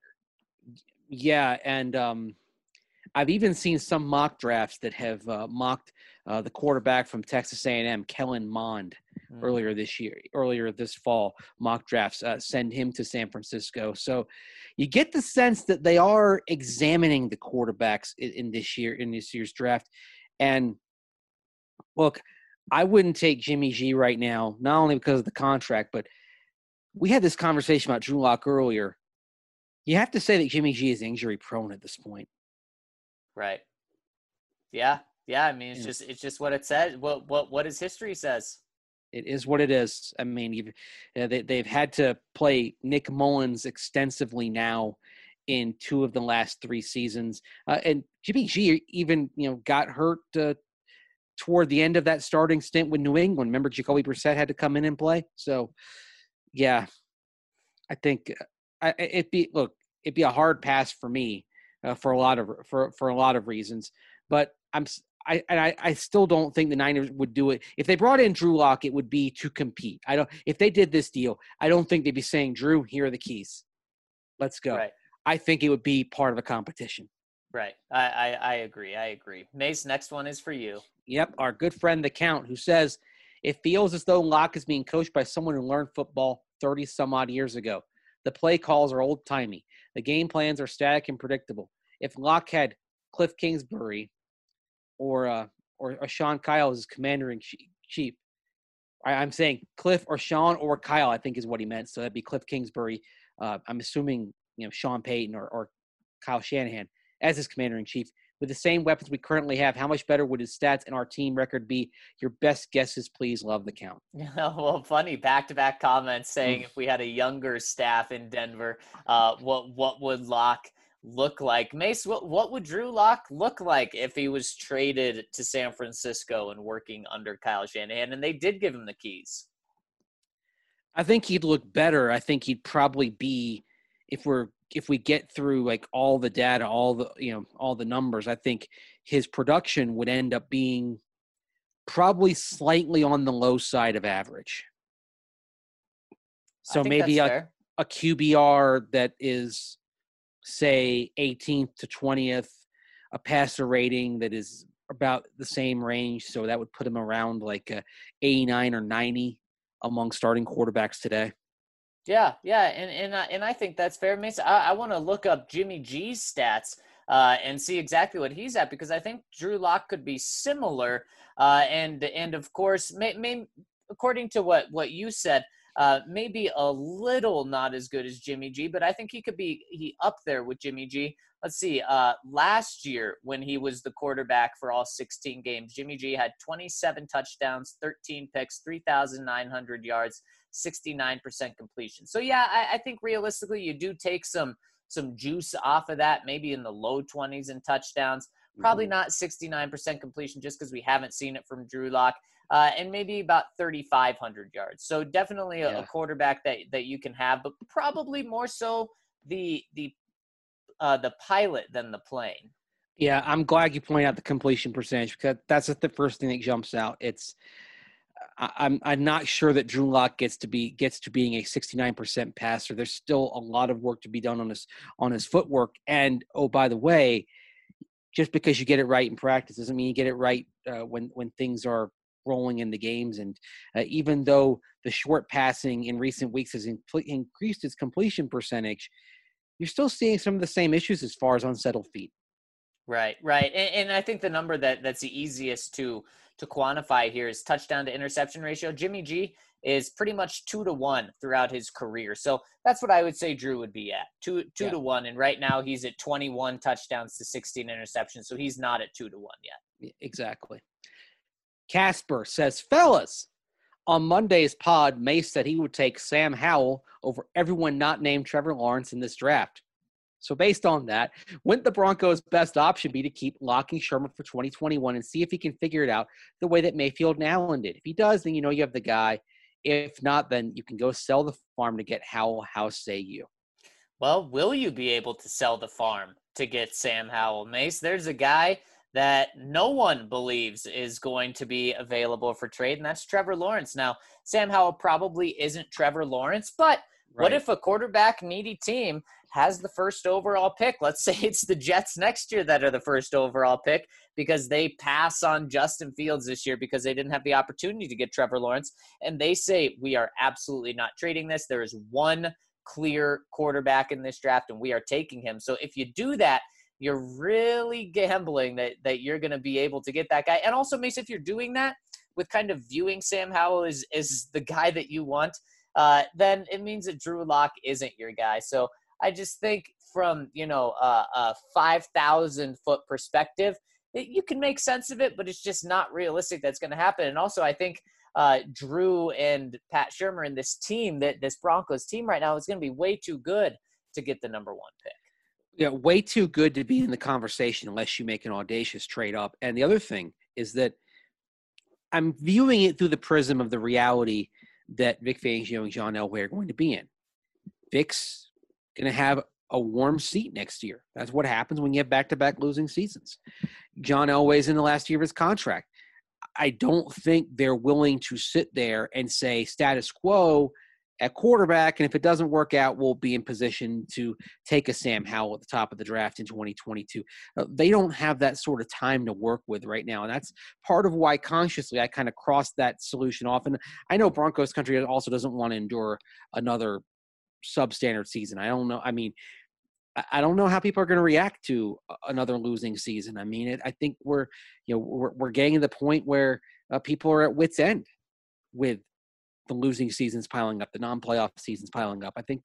Yeah, and I've even seen some mock drafts that have mocked the quarterback from Texas A&M, Kellen Mond, earlier this fall. Mock drafts send him to San Francisco. So you get the sense that they are examining the quarterbacks in this year's draft. And look, I wouldn't take Jimmy G right now, not only because of the contract, but we had this conversation about Drew Lock earlier. You have to say that Jimmy G is injury prone at this point. Right. Yeah. I mean, it's just what it says. What his history says. It is what it is. I mean, they've had to play Nick Mullins extensively now in 2 of the last 3 seasons, and Jimmy G even got hurt toward the end of that starting stint with New England. Remember, Jacoby Brissett had to come in and play. So, yeah, I think it'd be a hard pass for me. For a lot of reasons, but I still don't think the Niners would do it. If they brought in Drew Lock, it would be to compete. If they did this deal, I don't think they'd be saying, Drew, here are the keys. Let's go. Right. I think it would be part of a competition. Right. I agree. Mace, next one is for you. Yep. Our good friend, The Count, who says, it feels as though Lock is being coached by someone who learned football 30 some odd years ago. The play calls are old timey. The game plans are static and predictable. If Locke had Cliff Kingsbury or Sean Kyle as commander-in-chief, I'm saying Cliff or Sean or Kyle, I think is what he meant. So that'd be Cliff Kingsbury. I'm assuming, Sean Payton or Kyle Shanahan as his commander-in-chief. With the same weapons we currently have, how much better would his stats and our team record be? Your best guesses, please. Love the count. Well, funny back-to-back comments saying if we had a younger staff in Denver, what would Locke look like? Mace, what would Drew Lock look like if he was traded to San Francisco and working under Kyle Shanahan? And they did give him the keys. I think he'd look better. I think he'd probably be, if we get through like all the data, all the numbers, I think his production would end up being probably slightly on the low side of average. So maybe a QBR that is, say, 18th to 20th, a passer rating that is about the same range. So that would put him around like 89 or 90 among starting quarterbacks today. Yeah, and I think that's fair. Mason, I want to look up Jimmy G's stats and see exactly what he's at, because I think Drew Lock could be similar. And of course, according to what you said, maybe a little not as good as Jimmy G, but I think he could be up there with Jimmy G. Let's see. Last year, when he was the quarterback for all 16 games, Jimmy G had 27 touchdowns, 13 picks, 3,900 yards, 69% completion. So yeah, I think realistically you do take some juice off of that, maybe in the low 20s in touchdowns. Probably not 69% completion just because we haven't seen it from Drew Lock. And maybe about 3,500 yards. So definitely a quarterback that you can have, but probably more so the pilot than the plane. Yeah, I'm glad you pointed out the completion percentage, because that's the first thing that jumps out. I'm not sure that Drew Lock gets to being a 69% passer. There's still a lot of work to be done on his footwork. And oh, by the way, just because you get it right in practice doesn't mean you get it right when things are rolling in the games. And even though the short passing in recent weeks has increased its completion percentage, you're still seeing some of the same issues as far as unsettled feet. Right. And I think the number that's the easiest to quantify here is touchdown to interception ratio. Jimmy G is pretty much 2-1 throughout his career. So that's what I would say Drew would be at, 2-1. And right now he's at 21 touchdowns to 16 interceptions. So he's not at 2-1 yet. Exactly. Casper says, fellas, on Monday's pod, Mace said he would take Sam Howell over everyone not named Trevor Lawrence in this draft. So based on that, wouldn't the Broncos' best option be to keep locking Sherman for 2021 and see if he can figure it out the way that Mayfield and Allen did? If he does, then you have the guy. If not, then you can go sell the farm to get Howell. How say you? Well, will you be able to sell the farm to get Sam Howell, Mace? There's a guy that no one believes is going to be available for trade, and that's Trevor Lawrence. Now, Sam Howell probably isn't Trevor Lawrence, but what if a quarterback-needy team has the first overall pick? Let's say it's the Jets next year that are the first overall pick because they pass on Justin Fields this year because they didn't have the opportunity to get Trevor Lawrence, and they say, we are absolutely not trading this. There is one clear quarterback in this draft, and we are taking him. So if you do that, you're really gambling that you're going to be able to get that guy. And also, Mace, if you're doing that with kind of viewing Sam Howell as the guy that you want, then it means that Drew Lock isn't your guy. So I just think from, a 5,000-foot perspective, you can make sense of it, but it's just not realistic that's going to happen. And also, I think Drew and Pat Shurmur and this team, this Broncos team right now, is going to be way too good to get the number one pick. Yeah, way too good to be in the conversation unless you make an audacious trade up. And the other thing is that I'm viewing it through the prism of the reality that Vic Fangio and John Elway are going to be in. Vic's going to have a warm seat next year. That's what happens when you have back-to-back losing seasons. John Elway's in the last year of his contract. I don't think they're willing to sit there and say status quo at quarterback, and if it doesn't work out, we'll be in position to take a Sam Howell at the top of the draft in 2022. They don't have that sort of time to work with right now, and that's part of why consciously I kind of crossed that solution off. And I know Broncos country also doesn't want to endure another substandard season. I don't know. I mean, I don't know how people are going to react to another losing season. I mean, I think we're getting to the point where people are at wit's end with the losing seasons piling up, the non-playoff seasons piling up. I think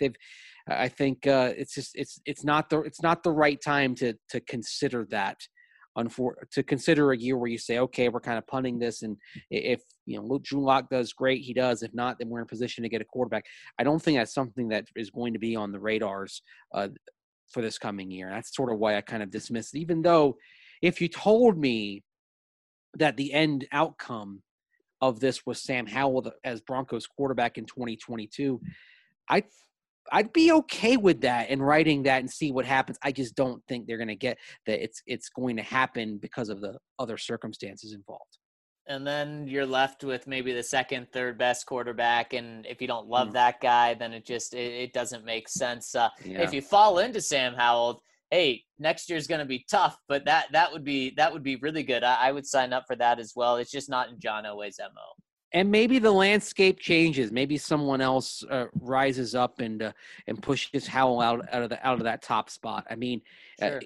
it's not the right time to consider that. To consider a year where you say, okay, we're kind of punting this, and if Drew Lock does great, he does. If not, then we're in a position to get a quarterback. I don't think that's something that is going to be on the radars for this coming year. That's sort of why I kind of dismissed it. Even though, if you told me that the end outcome of this was Sam Howell as Broncos quarterback in 2022, I'd be okay with that and writing that and see what happens. I just don't think they're going to get that. It's going to happen because of the other circumstances involved. And then you're left with maybe the second, third best quarterback. And if you don't love that guy, then it doesn't make sense. If you fall into Sam Howell, hey, next year's going to be tough, but that would be really good. I would sign up for that as well. It's just not in John Elway's MO. And maybe the landscape changes. Maybe someone else rises up and pushes Howell out of that top spot. I mean, Sure.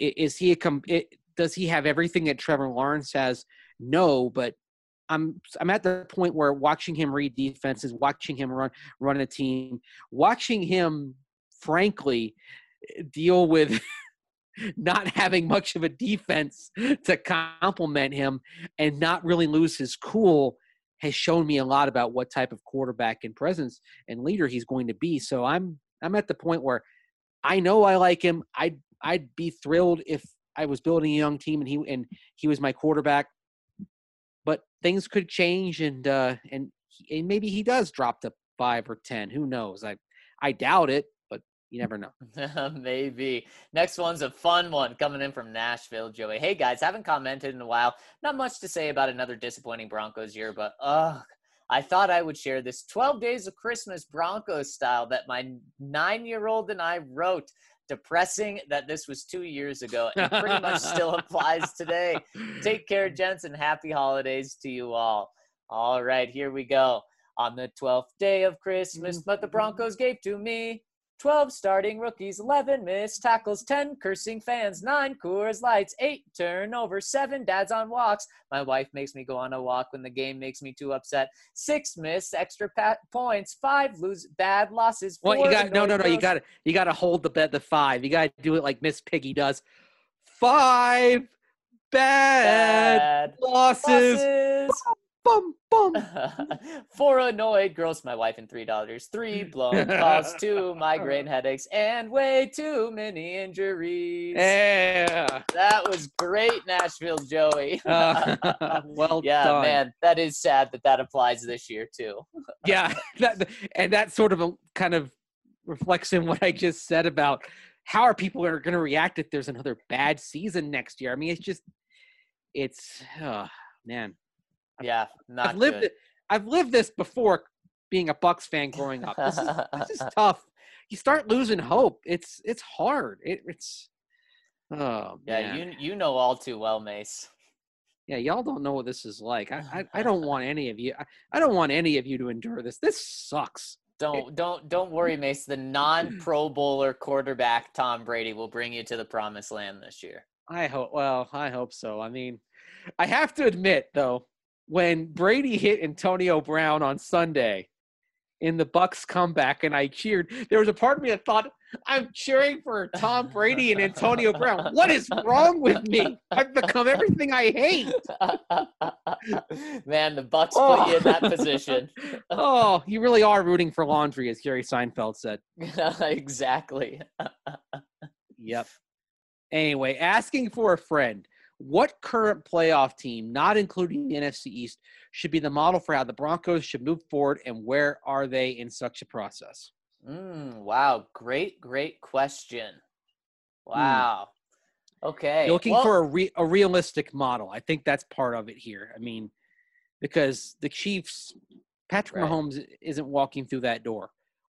Does he have everything that Trevor Lawrence has? No, but I'm at the point where watching him read defenses, watching him run a team, watching him, frankly, deal with not having much of a defense to complement him and not really lose his cool has shown me a lot about what type of quarterback and presence and leader he's going to be. So I'm at the point where I know I like him. I'd be thrilled if I was building a young team and he was my quarterback. But things could change, and maybe he does drop to 5 or 10. Who knows? I doubt it, but you never know. Maybe. Next one's a fun one coming in from Nashville, Joey. Hey, guys, haven't commented in a while. Not much to say about another disappointing Broncos year, but I thought I would share this 12 Days of Christmas Broncos style that my 9-year-old and I wrote. Depressing that this was 2 years ago and pretty much still applies today. Take care, gents, and happy holidays to you all. All right, here we go. On the 12th day of Christmas, but the Broncos gave to me 12 starting rookies, 11 missed tackles, 10 cursing fans, 9 Coors Lights, 8 turnovers, 7 dads on walks. My wife makes me go on a walk when the game makes me too upset. 6 missed extra points, 5 bad losses. Well, you got no. You got to hold the 5. You got to do it like Miss Piggy does. 5 bad losses. Bum, bum. 4 annoyed girls, my wife, and $3. 3 blown calls, 2 migraine headaches, and way too many injuries. Yeah. That was great, Nashville Joey. Well yeah, done. Man, that is sad that applies this year too. Yeah, that sort of kind of reflects in what I just said about how are people going to react if there's another bad season next year. I mean, man. Yeah, I've lived this before being a Bucs fan growing up. This is tough. You start losing hope. It's hard. It's man. You know all too well, Mace. Yeah, y'all don't know what this is like. I don't want any of you. I don't want any of you to endure this. This sucks. Don't worry, Mace. The non-Pro Bowler quarterback Tom Brady will bring you to the promised land this year. I hope so. I mean, I have to admit though, when Brady hit Antonio Brown on Sunday in the Bucs comeback and I cheered, there was a part of me that thought, I'm cheering for Tom Brady and Antonio Brown. What is wrong with me? I've become everything I hate. Man, the Bucs put you in that position. Oh, you really are rooting for laundry, as Jerry Seinfeld said. Exactly. Yep. Anyway, asking for a friend. What current playoff team, not including the NFC East, should be the model for how the Broncos should move forward, and where are they in such a process? Wow. Great question. Wow. Okay. You're looking for a realistic model. I think that's part of it here. I mean, because the Chiefs, Patrick Mahomes isn't walking through that door.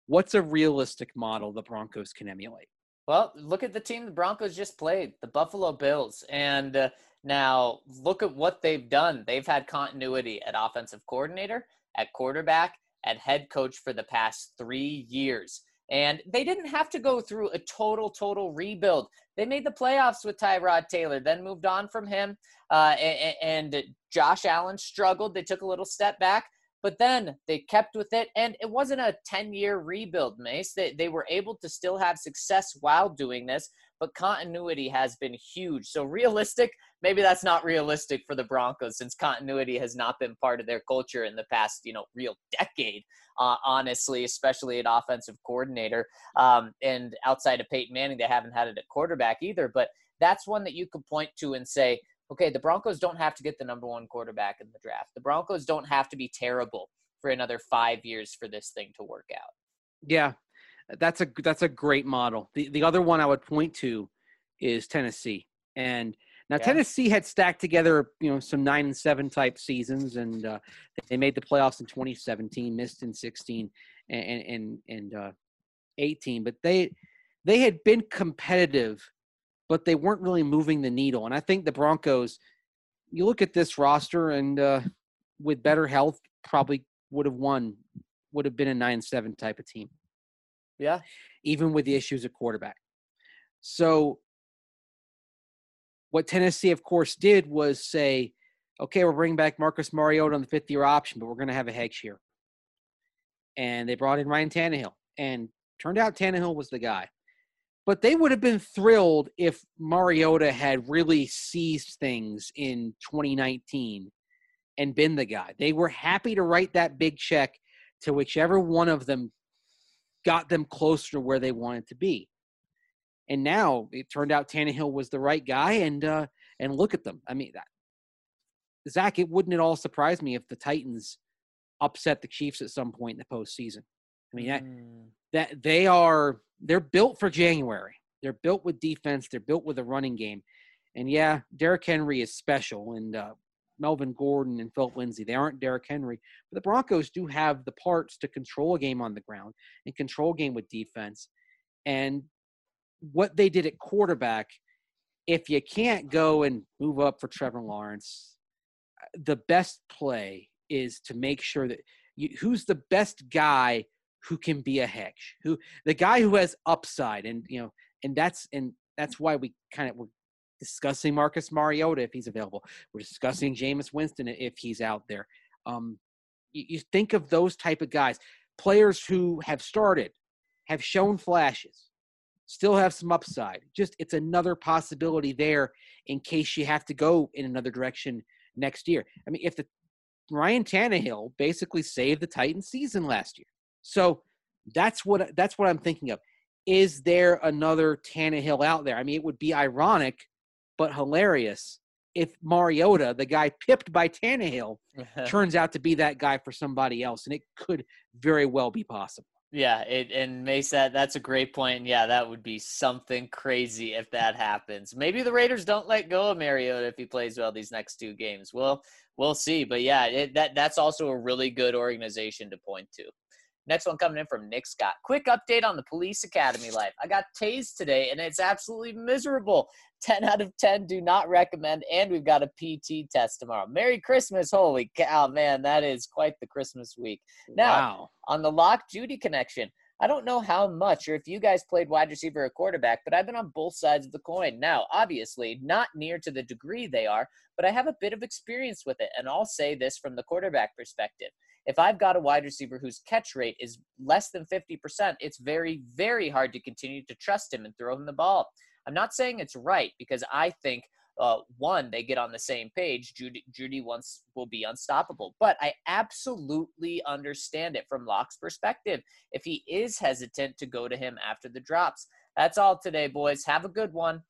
what's a realistic model the Broncos can emulate? Well, look at the team the Broncos just played, the Buffalo Bills. And now look at what they've done. They've had continuity at offensive coordinator, at quarterback, at head coach for the past 3 years. And they didn't have to go through a total rebuild. They made the playoffs with Tyrod Taylor, then moved on from him. And Josh Allen struggled. They took a little step back. But then they kept with it, and it wasn't a 10-year rebuild, Mace. They were able to still have success while doing this, but continuity has been huge. So realistic, maybe that's not realistic for the Broncos since continuity has not been part of their culture in the past, real decade, honestly, especially at offensive coordinator. And outside of Peyton Manning, they haven't had it at quarterback either. But that's one that you could point to and say, okay, the Broncos don't have to get the number one quarterback in the draft. The Broncos don't have to be terrible for another 5 years for this thing to work out. Yeah, that's a great model. The other one I would point to is Tennessee. And now Tennessee had stacked together, some 9-7 type seasons, and they made the playoffs in 2017, missed in 16 and 18. But they had been competitive, but they weren't really moving the needle. And I think the Broncos, you look at this roster, and with better health, probably would have been a 9-7 type of team. Yeah. Even with the issues at quarterback. So what Tennessee, of course, did was say, okay, we're bringing back Marcus Mariota on the 5th-year option, but we're going to have a hedge here. And they brought in Ryan Tannehill. And turned out Tannehill was the guy. But they would have been thrilled if Mariota had really seized things in 2019 and been the guy. They were happy to write that big check to whichever one of them got them closer to where they wanted to be. And now it turned out Tannehill was the right guy, and look at them. I mean, Zach, wouldn't it all surprise me if the Titans upset the Chiefs at some point in the postseason? I mean, that they're built for January. They're built with defense. They're built with a running game. And yeah, Derrick Henry is special, and Melvin Gordon and Philip Lindsay, they aren't Derrick Henry. But the Broncos do have the parts to control a game on the ground and control a game with defense. And what they did at quarterback, if you can't go and move up for Trevor Lawrence, the best play is to make sure that who's the best guy who can be a hedge, the guy who has upside. And, and that's why we're discussing Marcus Mariota if he's available. We're discussing Jameis Winston if he's out there. You think of those type of guys, players who have started, have shown flashes, still have some upside. Just it's another possibility there in case you have to go in another direction next year. I mean, if Ryan Tannehill basically saved the Titans season last year. So that's what I'm thinking of. Is there another Tannehill out there? I mean, it would be ironic, but hilarious if Mariota, the guy pipped by Tannehill, turns out to be that guy for somebody else, and it could very well be possible. Yeah, and Mace, that's a great point. And yeah, that would be something crazy if that happens. Maybe the Raiders don't let go of Mariota if he plays well these next 2 games. Well, we'll see. But yeah, that's also a really good organization to point to. Next one coming in from Nick Scott. Quick update on the police academy life. I got tased today, and it's absolutely miserable. 10 out of 10 do not recommend, and we've got a PT test tomorrow. Merry Christmas. Holy cow, man, that is quite the Christmas week. Now, on the Lock Judy connection, I don't know how much or if you guys played wide receiver or quarterback, but I've been on both sides of the coin. Now, obviously, not near to the degree they are, but I have a bit of experience with it, and I'll say this from the quarterback perspective. If I've got a wide receiver whose catch rate is less than 50%, it's very, very hard to continue to trust him and throw him the ball. I'm not saying it's right because I think, one, they get on the same page. Judy will be unstoppable. But I absolutely understand it from Locke's perspective if he is hesitant to go to him after the drops. That's all today, boys. Have a good one.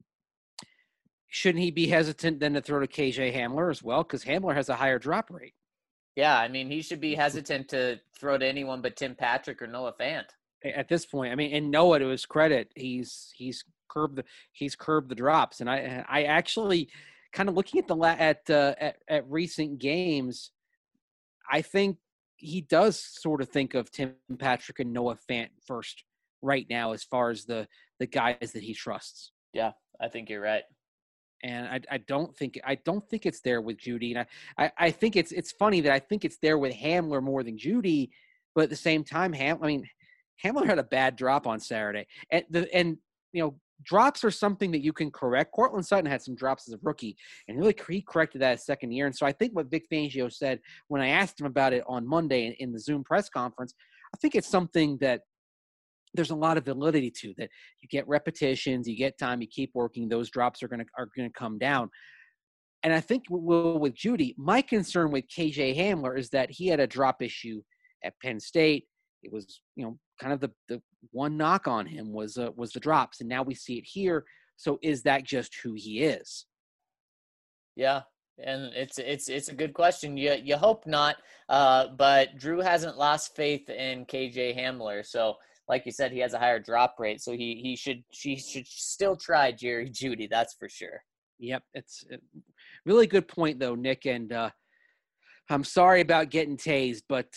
Shouldn't he be hesitant then to throw to KJ Hamler as well? Because Hamler has a higher drop rate. Yeah, I mean, he should be hesitant to throw to anyone but Tim Patrick or Noah Fant. At this point, I mean, and Noah, to his credit, he's curbed the drops, and I actually kind of looking at recent games, I think he does sort of think of Tim Patrick and Noah Fant first right now as far as the guys that he trusts. Yeah, I think you're right. And I don't think it's there with Judy. And I think it's funny that I think it's there with Hamler more than Judy, but at the same time, Hamler had a bad drop on Saturday. And drops are something that you can correct. Cortland Sutton had some drops as a rookie, and really he corrected that his second year. And so I think what Vic Fangio said when I asked him about it on Monday in the Zoom press conference, I think it's something that there's a lot of validity to, that you get repetitions, you get time, you keep working, those drops are gonna come down. And I think with Judy, my concern with KJ Hamler is that he had a drop issue at Penn State. It was, kind of the one knock on him was the drops, and now we see it here. So is that just who he is? Yeah, and it's a good question. You hope not, but Drew hasn't lost faith in KJ Hamler. So, like you said, he has a higher drop rate, so she should still try Jerry Judy. That's for sure. Yep, it's a really good point though, Nick. And I'm sorry about getting tased, but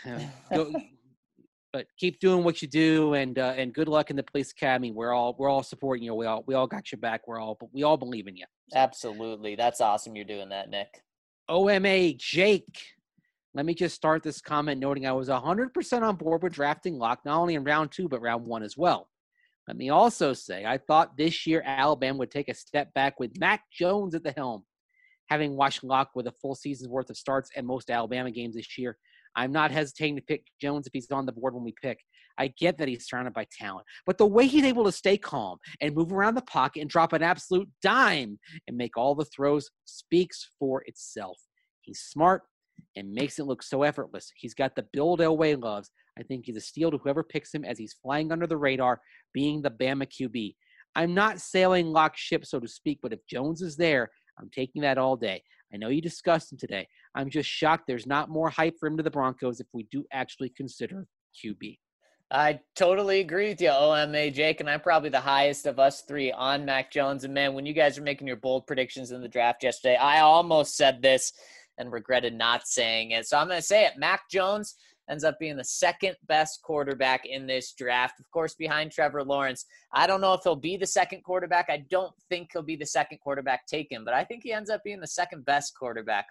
but keep doing what you do, and good luck in the police academy. We're all supporting you. We all got your back. We all believe in you. So. Absolutely, that's awesome. You're doing that, Nick. OMA Jake. Let me just start this comment noting I was 100% on board with drafting Locke, not only in round 2, but round 1 as well. Let me also say I thought this year Alabama would take a step back with Mac Jones at the helm. Having watched Locke with a full season's worth of starts and most Alabama games this year, I'm not hesitating to pick Jones if he's on the board when we pick. I get that he's surrounded by talent, but the way he's able to stay calm and move around the pocket and drop an absolute dime and make all the throws speaks for itself. He's smart and makes it look so effortless. He's got the build Elway loves. I think he's a steal to whoever picks him as he's flying under the radar, being the Bama QB. I'm not sailing Locke's ship, so to speak, but if Jones is there, I'm taking that all day. I know you discussed him today. I'm just shocked there's not more hype for him to the Broncos if we do actually consider QB. I totally agree with you, OMA, Jake, and I'm probably the highest of us three on Mac Jones. And, man, when you guys were making your bold predictions in the draft yesterday, I almost said this and regretted not saying it. So I'm going to say it. Mac Jones ends up being the second best quarterback in this draft, of course, behind Trevor Lawrence. I don't know if he'll be the second quarterback. I don't think he'll be the second quarterback taken, but I think he ends up being the second best quarterback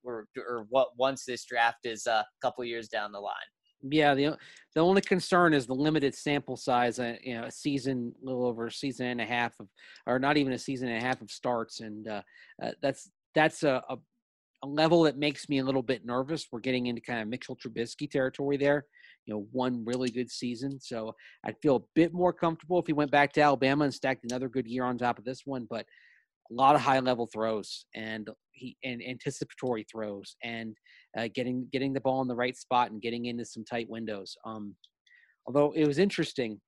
once this draft is a couple years down the line. Yeah, the only concern is the limited sample size. A season, a little over a season and a half of, or not even a season and a half of starts, and that's a level that makes me a little bit nervous. We're getting into kind of Mitchell Trubisky territory there. One really good season, so I'd feel a bit more comfortable if he went back to Alabama and stacked another good year on top of this one. But a lot of high-level throws and anticipatory throws and getting the ball in the right spot and getting into some tight windows. Although it was interesting,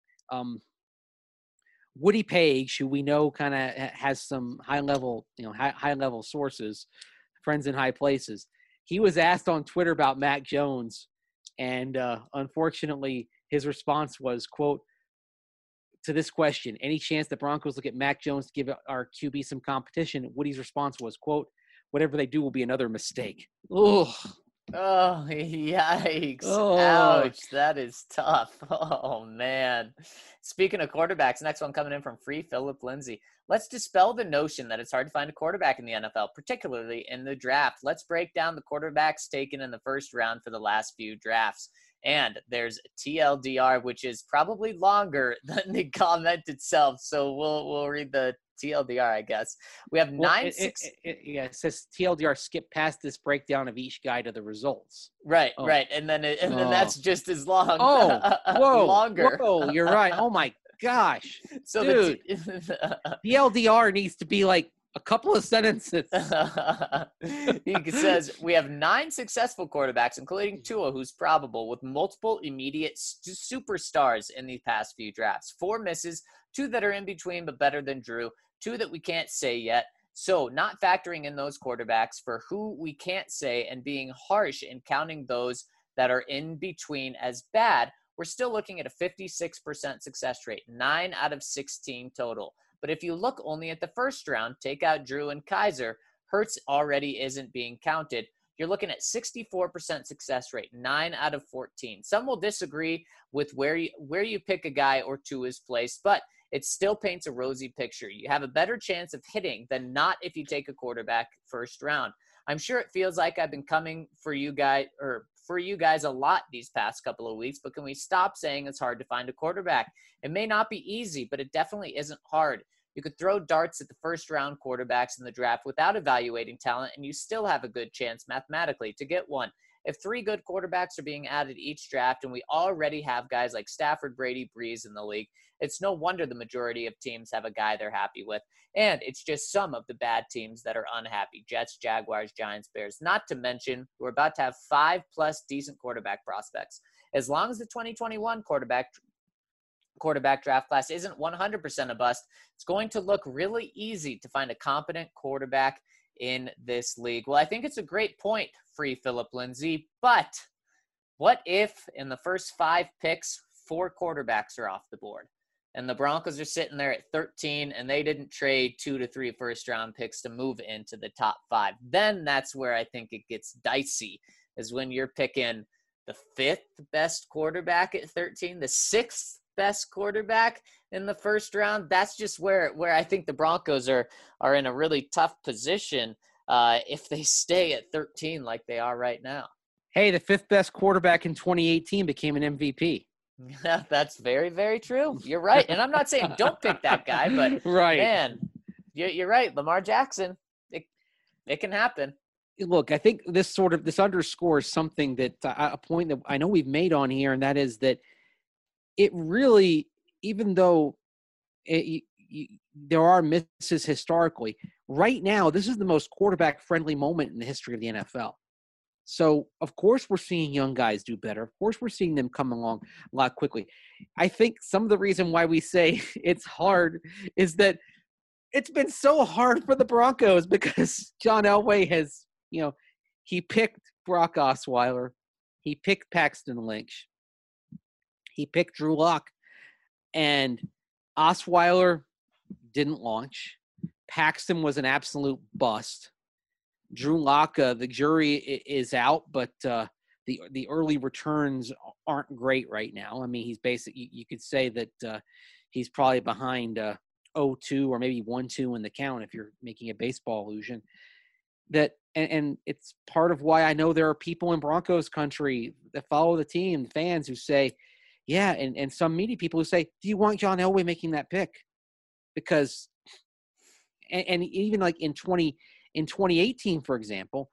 Woody Page, who we know kind of has some high-level sources, friends in high places, he was asked on Twitter about Mac Jones, and unfortunately his response was, quote, to this question, any chance the Broncos look at Mac Jones to give our QB some competition? Woody's response was, quote, whatever they do will be another mistake. Ugh. Oh, yikes. Oh. Ouch. That is tough. Oh, man. Speaking of quarterbacks, next one coming in from Free Philip Lindsay. Let's dispel the notion that it's hard to find a quarterback in the NFL, particularly in the draft. Let's break down the quarterbacks taken in the first round for the last few drafts. And there's TLDR, which is probably longer than the comment itself. So we'll read the TLDR, I guess. We have it says TLDR, skip past this breakdown of each guy to the results. Right, right. And then that's just as long. Longer. Whoa, you're right. Oh my gosh. So dude, TLDR needs to be like a couple of sentences. He says, we have 9 successful quarterbacks, including Tua, who's probable, with multiple immediate superstars in these past few drafts. 4 misses, 2 that are in between but better than Drew, 2 that we can't say yet. So not factoring in those quarterbacks for who we can't say and being harsh in counting those that are in between as bad, we're still looking at a 56% success rate, 9 out of 16 total. But if you look only at the first round, take out Drew and Kaiser, Hurts already isn't being counted. you're looking at 64% success rate, 9 out of 14. Some will disagree with where you pick a guy or two is placed, but it still paints a rosy picture. You have a better chance of hitting than not if you take a quarterback first round. I'm sure it feels like I've been coming for you guys a lot these past couple of weeks, but can we stop saying it's hard to find a quarterback? It may not be easy, but it definitely isn't hard. You could throw darts at the first round quarterbacks in the draft without evaluating talent, and you still have a good chance mathematically to get one. If 3 good quarterbacks are being added each draft, and we already have guys like Stafford, Brady, Breeze in the league, it's no wonder the majority of teams have a guy they're happy with. And it's just some of the bad teams that are unhappy. Jets, Jaguars, Giants, Bears. Not to mention, we're about to have 5+ decent quarterback prospects. As long as the 2021 quarterback draft class isn't 100% a bust, it's going to look really easy to find a competent quarterback in this league. Well, I think it's a great point, Free Philip Lindsay, but what if in the first 5 picks, 4 quarterbacks are off the board? And the Broncos are sitting there at 13, and they didn't trade 2 to 3 first-round picks to move into the top 5. Then that's where I think it gets dicey, is when you're picking the 5th best quarterback at 13, the 6th best quarterback in the first round. That's just where I think the Broncos are in a really tough position if they stay at 13 like they are right now. Hey, the 5th best quarterback in 2018 became an MVP. Yeah, that's very, very true. You're right. And I'm not saying don't pick that guy, but right. Man, you're right. Lamar Jackson, it can happen. Look, I think this underscores something that a point that I know we've made on here, and that is that it really, even though there are misses historically, right now, this is the most quarterback-friendly moment in the history of the NFL. So, of course, we're seeing young guys do better. Of course, we're seeing them come along a lot quickly. I think some of the reason why we say it's hard is that it's been so hard for the Broncos because John Elway has, he picked Brock Osweiler. He picked Paxton Lynch. He picked Drew Lock. And Osweiler didn't launch. Paxton was an absolute bust. Drew Lock, the jury is out, but the early returns aren't great right now. I mean, he's basically, you could say that he's probably behind 0-2 or maybe 1-2 in the count if you're making a baseball allusion. And it's part of why I know there are people in Broncos country that follow the team, fans who say, yeah, and some media people who say, do you want John Elway making that pick? Because, and even like in 2018, for example,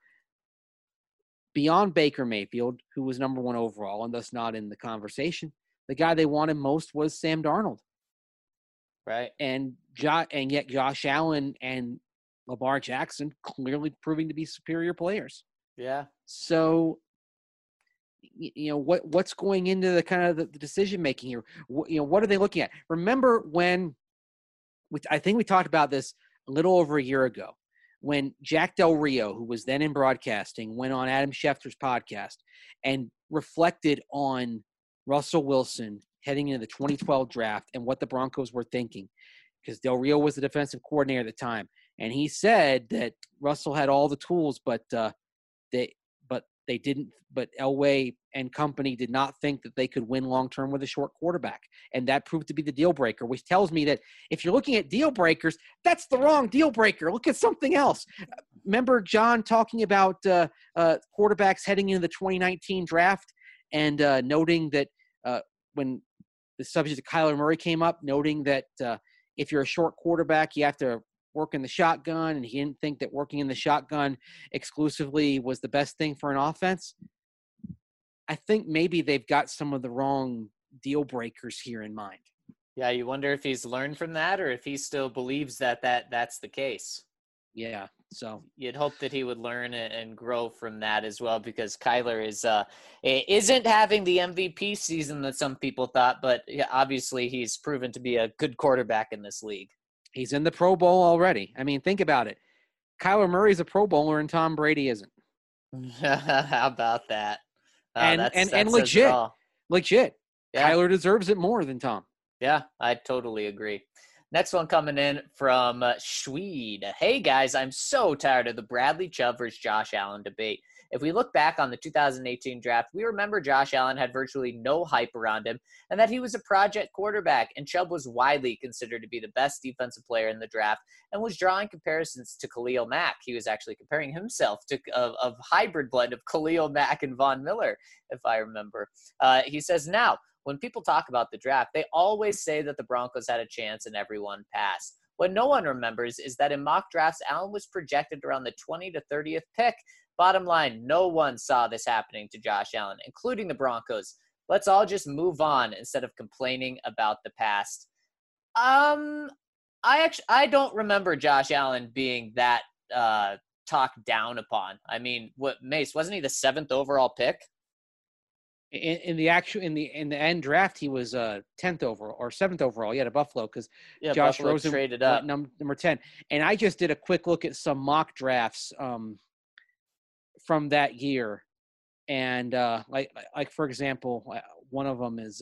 beyond Baker Mayfield, who was number 1 overall and thus not in the conversation, the guy they wanted most was Sam Darnold. Right. And yet Josh Allen and Lamar Jackson clearly proving to be superior players. Yeah. So, what's going into the kind of the decision making here? What are they looking at? Remember when I think we talked about this a little over a year ago, when Jack Del Rio, who was then in broadcasting, went on Adam Schefter's podcast and reflected on Russell Wilson heading into the 2012 draft and what the Broncos were thinking, because Del Rio was the defensive coordinator at the time. And he said that Russell had all the tools, but Elway and company did not think that they could win long-term with a short quarterback. And that proved to be the deal breaker, which tells me that if you're looking at deal breakers, that's the wrong deal breaker. Look at something else. Remember John talking about quarterbacks heading into the 2019 draft and noting that when the subject of Kyler Murray came up, noting that if you're a short quarterback, you have to work in the shotgun, and he didn't think that working in the shotgun exclusively was the best thing for an offense. I think maybe they've got some of the wrong deal breakers here in mind. Yeah, you wonder if he's learned from that or if he still believes that's the case. Yeah, so you'd hope that he would learn and grow from that as well, because Kyler isn't having the MVP season that some people thought, but obviously he's proven to be a good quarterback in this league. He's in the Pro Bowl already. I mean, think about it. Kyler Murray's a Pro Bowler and Tom Brady isn't. How about that? And legit. Yeah. Kyler deserves it more than Tom. Yeah, I totally agree. Next one coming in from Schweed. Hey, guys, I'm so tired of the Bradley Chubb versus Josh Allen debate. If we look back on the 2018 draft, we remember Josh Allen had virtually no hype around him and that he was a project quarterback, and Chubb was widely considered to be the best defensive player in the draft and was drawing comparisons to Khalil Mack. He was actually comparing himself to a hybrid blend of Khalil Mack and Von Miller, if I remember. He says, now, when people talk about the draft, they always say that the Broncos had a chance and everyone passed. What no one remembers is that in mock drafts, Allen was projected around the 20 to 30th pick. Bottom line, no one saw this happening to Josh Allen, including the Broncos. Let's all just move on instead of complaining about the past. I don't remember Josh Allen being that talked down upon. I mean, what, Mace, wasn't he the 7th overall pick? In the end draft, he was 10th overall or 7th overall. He had a Buffalo because Josh Buffalo Rosen traded up number 10. And I just did a quick look at some mock drafts from that year, and like for example, one of them is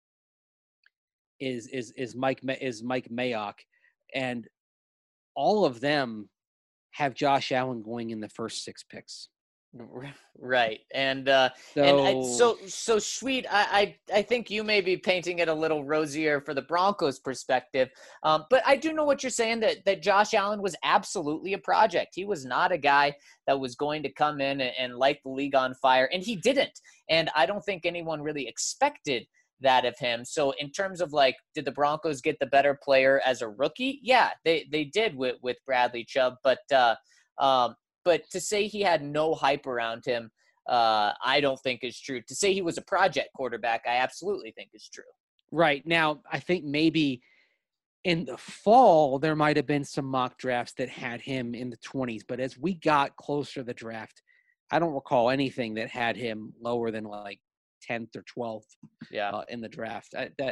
Mike Mayock, and all of them have Josh Allen going in the first 6 picks. Right. And so Sweet, I think you may be painting it a little rosier for the Broncos perspective. But I do know what you're saying, that Josh Allen was absolutely a project. He was not a guy that was going to come in and light the league on fire, and he didn't. And I don't think anyone really expected that of him. So in terms of like, did the Broncos get the better player as a rookie? Yeah, they did with Bradley Chubb, but to say he had no hype around him, I don't think is true. To say he was a project quarterback, I absolutely think is true. Right. Now, I think maybe in the fall, there might have been some mock drafts that had him in the 20s. But as we got closer to the draft, I don't recall anything that had him lower than like 10th or 12th in the draft.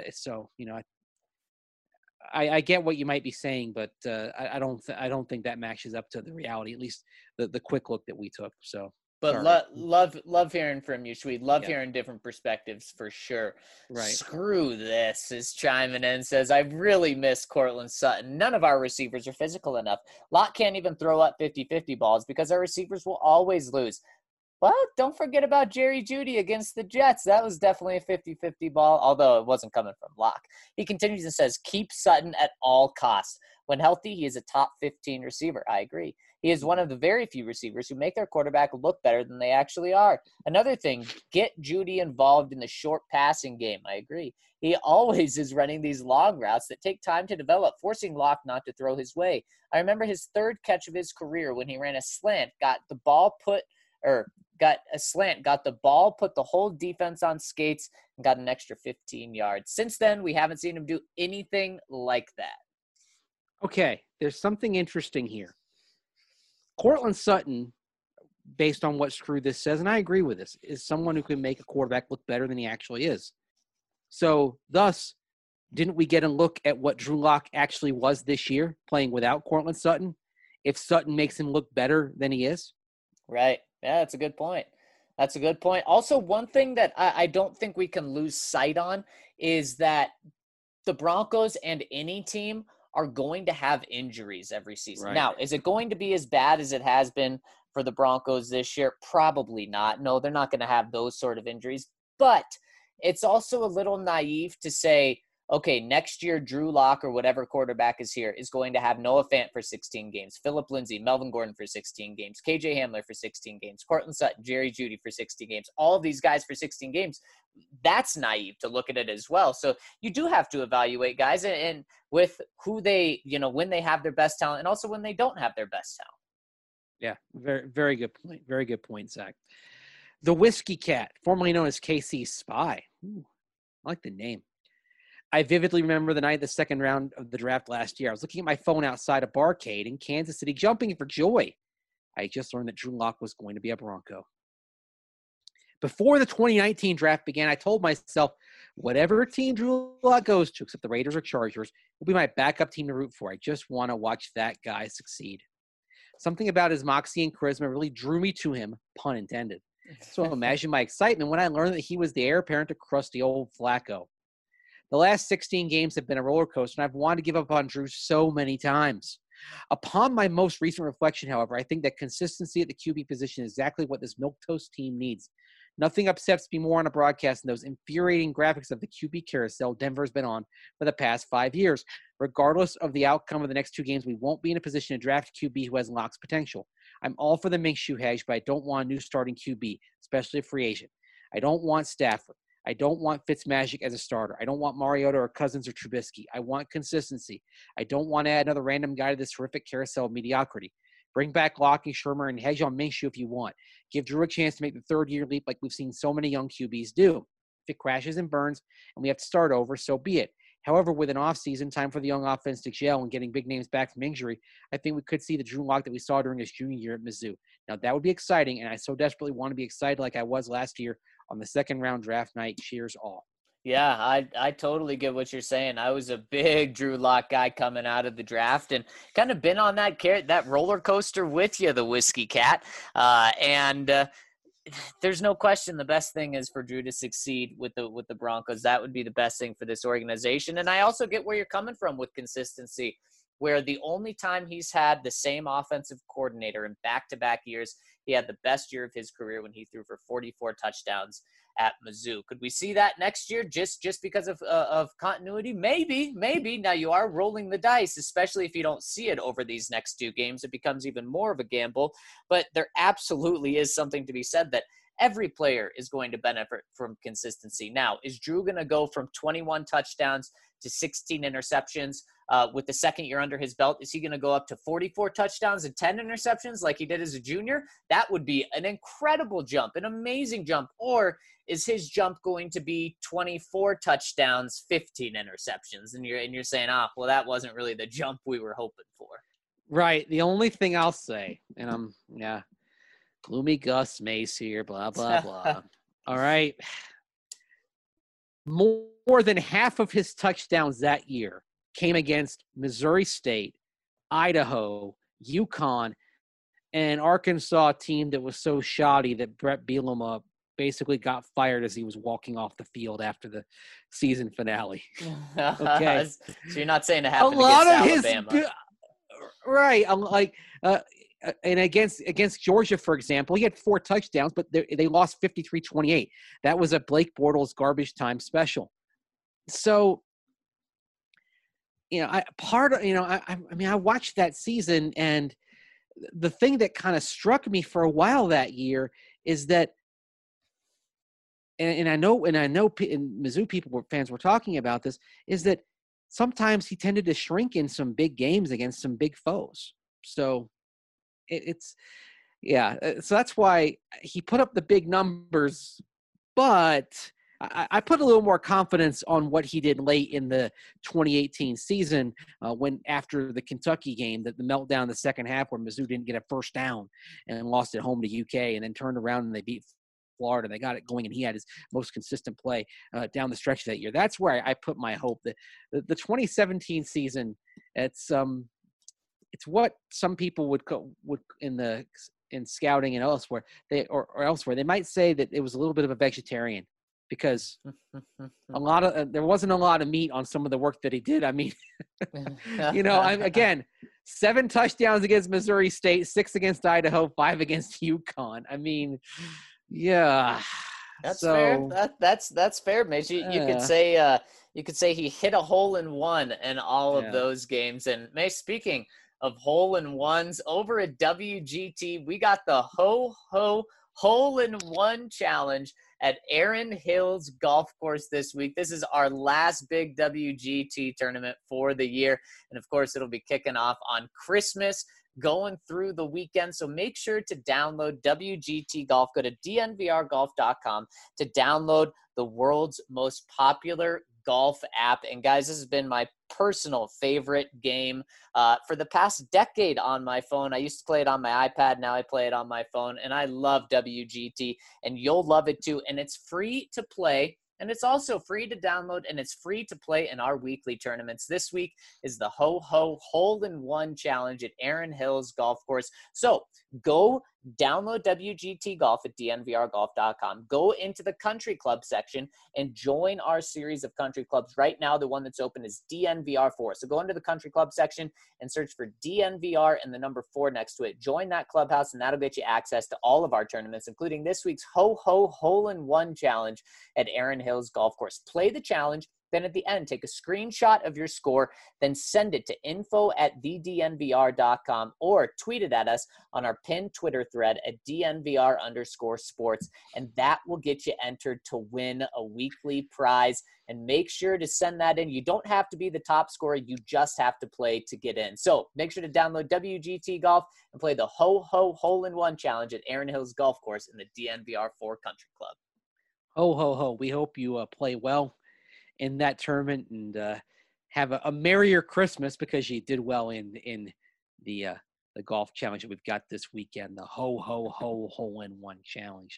I get what you might be saying, but I don't think that matches up to the reality, at least the quick look that we took. So, but love hearing from you, Sweet. Love hearing different perspectives for sure. Right. Screw this is chiming in, says, I really miss Courtland Sutton. None of our receivers are physical enough. Locke can't even throw up 50-50 balls because our receivers will always lose. Well, don't forget about Jerry Jeudy against the Jets. That was definitely a 50-50 ball, although it wasn't coming from Locke. He continues and says, keep Sutton at all costs. When healthy, he is a top 15 receiver. I agree. He is one of the very few receivers who make their quarterback look better than they actually are. Another thing, get Jeudy involved in the short passing game. I agree. He always is running these long routes that take time to develop, forcing Locke not to throw his way. I remember his third catch of his career when he ran a slant, got the ball, put the whole defense on skates, and got an extra 15 yards. Since then, we haven't seen him do anything like that. Okay, there's something interesting here. Courtland Sutton, based on what Screw This says, and I agree with this, is someone who can make a quarterback look better than he actually is. So, thus, didn't we get a look at what Drew Lock actually was this year, playing without Courtland Sutton, if Sutton makes him look better than he is? Right. Yeah, that's a good point. Also, one thing that I don't think we can lose sight on is that the Broncos and any team are going to have injuries every season. Right. Now, is it going to be as bad as it has been for the Broncos this year? Probably not. No, they're not going to have those sort of injuries. But it's also a little naive to say, okay, next year, Drew Lock or whatever quarterback is here is going to have Noah Fant for 16 games, Phillip Lindsay, Melvin Gordon for 16 games, KJ Hamler for 16 games, Courtland Sutton, Jerry Jeudy for 16 games, all of these guys for 16 games. That's naive to look at it as well. So you do have to evaluate guys and with who they, when they have their best talent and also when they don't have their best talent. Yeah, very, very good point. Very good point, Zach. The Whiskey Cat, formerly known as KC Spy. Ooh, I like the name. I vividly remember the night of the second round of the draft last year. I was looking at my phone outside a barcade in Kansas City, jumping for joy. I just learned that Drew Lock was going to be a Bronco. Before the 2019 draft began, I told myself, whatever team Drew Lock goes to, except the Raiders or Chargers, will be my backup team to root for. I just want to watch that guy succeed. Something about his moxie and charisma really drew me to him, pun intended. So imagine my excitement when I learned that he was the heir apparent to crusty old Flacco. The last 16 games have been a roller coaster, and I've wanted to give up on Drew so many times. Upon my most recent reflection, however, I think that consistency at the QB position is exactly what this milquetoast team needs. Nothing upsets me more on a broadcast than those infuriating graphics of the QB carousel Denver's been on for the past 5 years. Regardless of the outcome of the next 2 games, we won't be in a position to draft a QB who has Lock's potential. I'm all for the Minshew hedge, but I don't want a new starting QB, especially a free agent. I don't want Stafford. I don't want Fitzmagic as a starter. I don't want Mariota or Cousins or Trubisky. I want consistency. I don't want to add another random guy to this horrific carousel of mediocrity. Bring back Locke and Shermer and hedge on Minshew if you want. Give Drew a chance to make the third-year leap like we've seen so many young QBs do. If it crashes and burns and we have to start over, so be it. However, with an offseason, time for the young offense to gel and getting big names back from injury, I think we could see the Drew Lock that we saw during his junior year at Mizzou. Now, that would be exciting, and I so desperately want to be excited like I was last year on the second-round draft night. Cheers all. Yeah, I totally get what you're saying. I was a big Drew Lock guy coming out of the draft and kind of been on that roller coaster with you, the Whiskey Cat. There's no question the best thing is for Drew to succeed with the Broncos. That would be the best thing for this organization. And I also get where you're coming from with consistency, where the only time he's had the same offensive coordinator in back-to-back years, he had the best year of his career when he threw for 44 touchdowns at Mizzou. Could we see that next year just because of continuity? Maybe. Now you are rolling the dice, especially if you don't see it over these next 2 games. It becomes even more of a gamble. But there absolutely is something to be said that every player is going to benefit from consistency. Now, is Drew going to go from 21 touchdowns to 16 interceptions with the second year under his belt? Is he going to go up to 44 touchdowns and 10 interceptions like he did as a junior? That would be an incredible jump, an amazing jump. Or is his jump going to be 24 touchdowns, 15 interceptions? And you're saying, well, that wasn't really the jump we were hoping for. Right. The only thing I'll say, and gloomy Gus Mace here, blah, blah, blah. All right. More than half of his touchdowns that year came against Missouri State, Idaho, UConn, and an Arkansas team that was so shoddy that Brett Bielema basically got fired as he was walking off the field after the season finale. Okay. So you're not saying it happened against Alabama. Right. And against Georgia, for example, he had 4 touchdowns, but they lost 53-28. That was a Blake Bortles garbage time special. So, I watched that season, and the thing that kind of struck me for a while that year is that, and I know, and Mizzou fans were talking about this, is that sometimes he tended to shrink in some big games against some big foes. So so that's why he put up the big numbers, but I put a little more confidence on what he did late in the 2018 season when after the Kentucky game, the meltdown in the second half where Mizzou didn't get a first down and lost at home to UK and then turned around and they beat Florida. They got it going, and he had his most consistent play down the stretch that year. That's where I put my hope. That the 2017 season, it's what some people would in scouting and elsewhere they might say that it was a little bit of a vegetarian because there wasn't a lot of meat on some of the work that he did. I mean, again, 7 touchdowns against Missouri State, 6 against Idaho, 5 against UConn. I mean, yeah, that's fair. That's fair, Mitch. You could say he hit a hole in one in all of those games. And May, speaking of hole in ones, over at WGT, we got the hole in one challenge at Erin Hills Golf Course this week. This is our last big WGT tournament for the year. And of course, it'll be kicking off on Christmas, going through the weekend. So make sure to download WGT Golf. Go to dnvrgolf.com to download the world's most popular golf app. And guys, this has been my personal favorite game for the past decade on my phone. I used to play it on my iPad. Now I play it on my phone, and I love WGT, and you'll love it too. And it's free to play, and it's also free to download, and it's free to play in our weekly tournaments. This week is the hole in one challenge at Erin Hills Golf Course. So go download WGT Golf at dnvrgolf.com. Go into the country club section and join our series of country clubs. Right now, the one that's open is DNVR4. So go into the country club section and search for DNVR and the number 4 next to it. Join that clubhouse, and that'll get you access to all of our tournaments, including this week's Ho-Ho Hole-in-One Challenge at Erin Hills Golf Course. Play the challenge. Then at the end, take a screenshot of your score, then send it to info@thednvr.com or tweet it at us on our pinned Twitter thread at DNVR_sports. And that will get you entered to win a weekly prize. And make sure to send that in. You don't have to be the top scorer. You just have to play to get in. So make sure to download WGT Golf and play the Ho-Ho Hole-in-One Challenge at Erin Hills Golf Course in the DNVR4 Country Club. Ho, ho, ho. We hope you play well in that tournament and have a merrier Christmas, because you did well in the golf challenge that we've got this weekend, the Hole-in-One Challenge.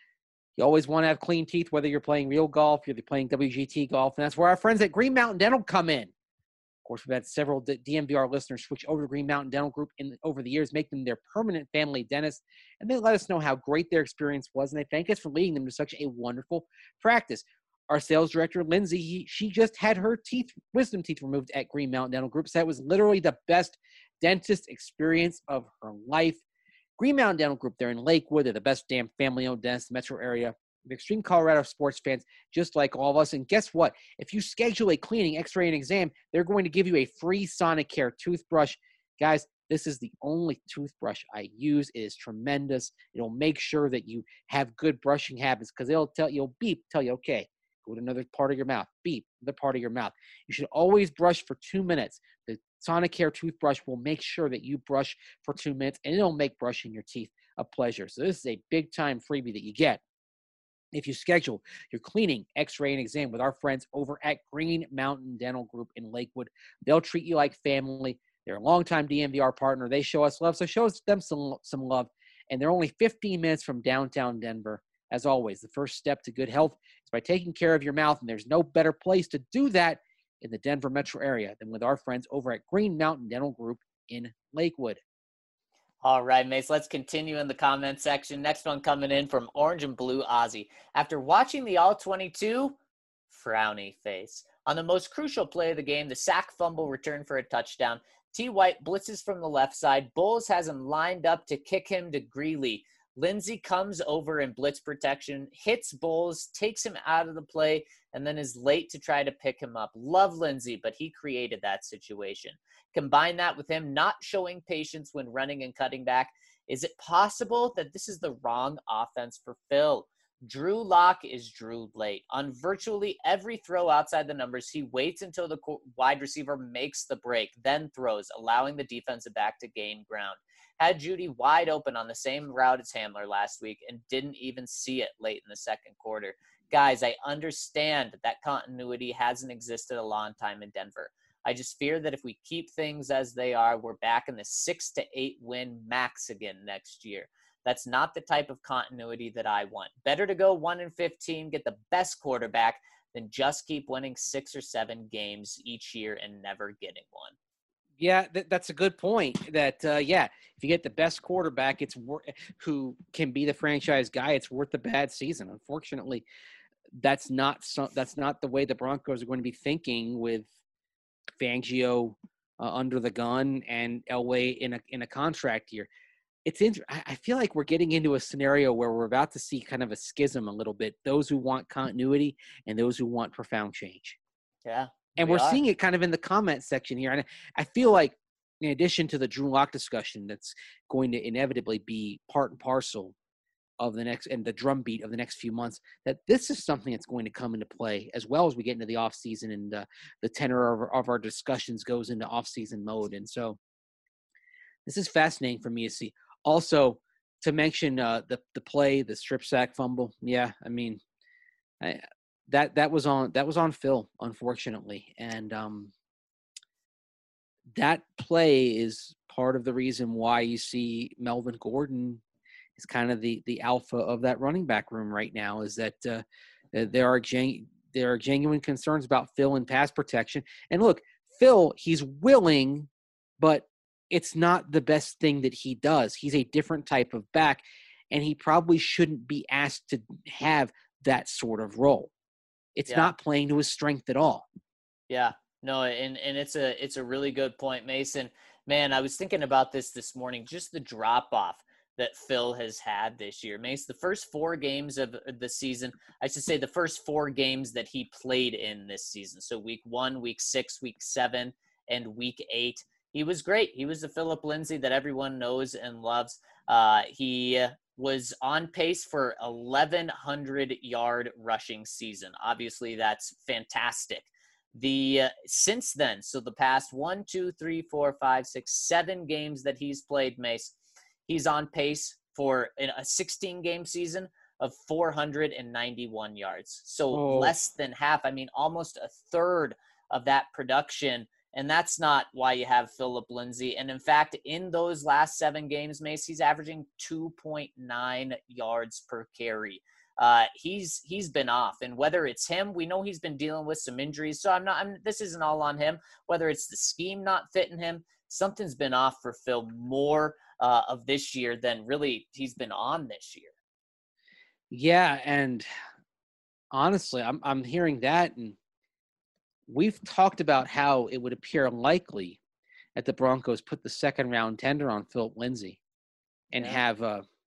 You always want to have clean teeth, whether you're playing real golf, you're playing WGT golf, and that's where our friends at Green Mountain Dental come in. Of course, we've had several DNVR listeners switch over to Green Mountain Dental Group over the years, make them their permanent family dentist, and they let us know how great their experience was, and they thank us for leading them to such a wonderful practice. Our sales director, Lindsay, she just had her wisdom teeth removed at Green Mountain Dental Group. So that was literally the best dentist experience of her life. Green Mountain Dental Group, they're in Lakewood. They're the best damn family-owned dentist in the metro area. They're extreme Colorado sports fans, just like all of us. And guess what? If you schedule a cleaning, x-ray, and exam, they're going to give you a free Sonicare toothbrush. Guys, this is the only toothbrush I use. It is tremendous. It'll make sure that you have good brushing habits, because it'll tell you, okay, go to another part of your mouth. Beep, another part of your mouth. You should always brush for 2 minutes. The Sonicare toothbrush will make sure that you brush for 2 minutes, and it'll make brushing your teeth a pleasure. So this is a big-time freebie that you get if you schedule your cleaning, x-ray, and exam with our friends over at Green Mountain Dental Group in Lakewood. They'll treat you like family. They're a longtime DNVR partner. They show us love, so show them some love. And they're only 15 minutes from downtown Denver. As always, the first step to good health is by taking care of your mouth, and there's no better place to do that in the Denver metro area than with our friends over at Green Mountain Dental Group in Lakewood. All right, Mace, let's continue in the comment section. Next one coming in from Orange and Blue Ozzy. After watching the All-22, frowny face. On the most crucial play of the game, the sack fumble return for a touchdown. T. White blitzes from the left side. Bowles has him lined up to kick him to Greeley. Lindsey comes over in blitz protection, hits Bowles, takes him out of the play, and then is late to try to pick him up. Love Lindsey, but he created that situation. Combine that with him not showing patience when running and cutting back. Is it possible that this is the wrong offense for Phil? Drew Lock is Drew late. On virtually every throw outside the numbers, he waits until the wide receiver makes the break, then throws, allowing the defensive back to gain ground. Had Judy wide open on the same route as Hamler last week and didn't even see it late in the second quarter. Guys, I understand that continuity hasn't existed a long time in Denver. I just fear that if we keep things as they are, we're back in the 6 to 8 win max again next year. That's not the type of continuity that I want. Better to go 1-15, get the best quarterback, than just keep winning 6 or 7 games each year and never getting one. Yeah, that's a good point. That if you get the best quarterback, who can be the franchise guy, it's worth the bad season. Unfortunately, that's not the way the Broncos are going to be thinking with Fangio under the gun and Elway in a contract year. It's I feel like we're getting into a scenario where we're about to see kind of a schism a little bit. Those who want continuity and those who want profound change. Yeah. And we're seeing it kind of in the comment section here. And I feel like, in addition to the Drew Lock discussion that's going to inevitably be part and parcel of the next and the drumbeat of the next few months, that this is something that's going to come into play as well as we get into the offseason and the tenor of our discussions goes into offseason mode. And so this is fascinating for me to see. Also, to mention the play, the strip sack fumble. Yeah, I mean, that was on Phil, unfortunately, and that play is part of the reason why you see Melvin Gordon is kind of the alpha of that running back room right now. Is that there are genuine concerns about Phil in pass protection. And look, Phil, he's willing, but it's not the best thing that he does. He's a different type of back, and he probably shouldn't be asked to have that sort of role. It's not playing to his strength at all. Yeah, no, and it's a really good point, Mason. Man, I was thinking about this morning, just the drop off that Phil has had this year. Mace, the first 4 games of the season, I should say the first 4 games that he played in this season. So week 1, week 6, week 7, and week 8. He was great. He was the Phillip Lindsay that everyone knows and loves. He was on pace for 1,100-yard rushing season. Obviously, that's fantastic. Since then, so the past 1, 2, 3, 4, 5, 6, 7 games that he's played, Mace, he's on pace for a 16-game season of 491 yards. So less than half. I mean, almost a third of that production. And that's not why you have Phillip Lindsay. And in fact, in those last 7 games, Mace, he's averaging 2.9 yards per carry. He's been off, and whether it's him, we know he's been dealing with some injuries. So this isn't all on him. Whether it's the scheme not fitting him, something's been off for Phil more of this year than really he's been on this year. Yeah, and honestly, I'm hearing that, and we've talked about how it would appear likely that the Broncos put the second round tender on Phillip Lindsay and have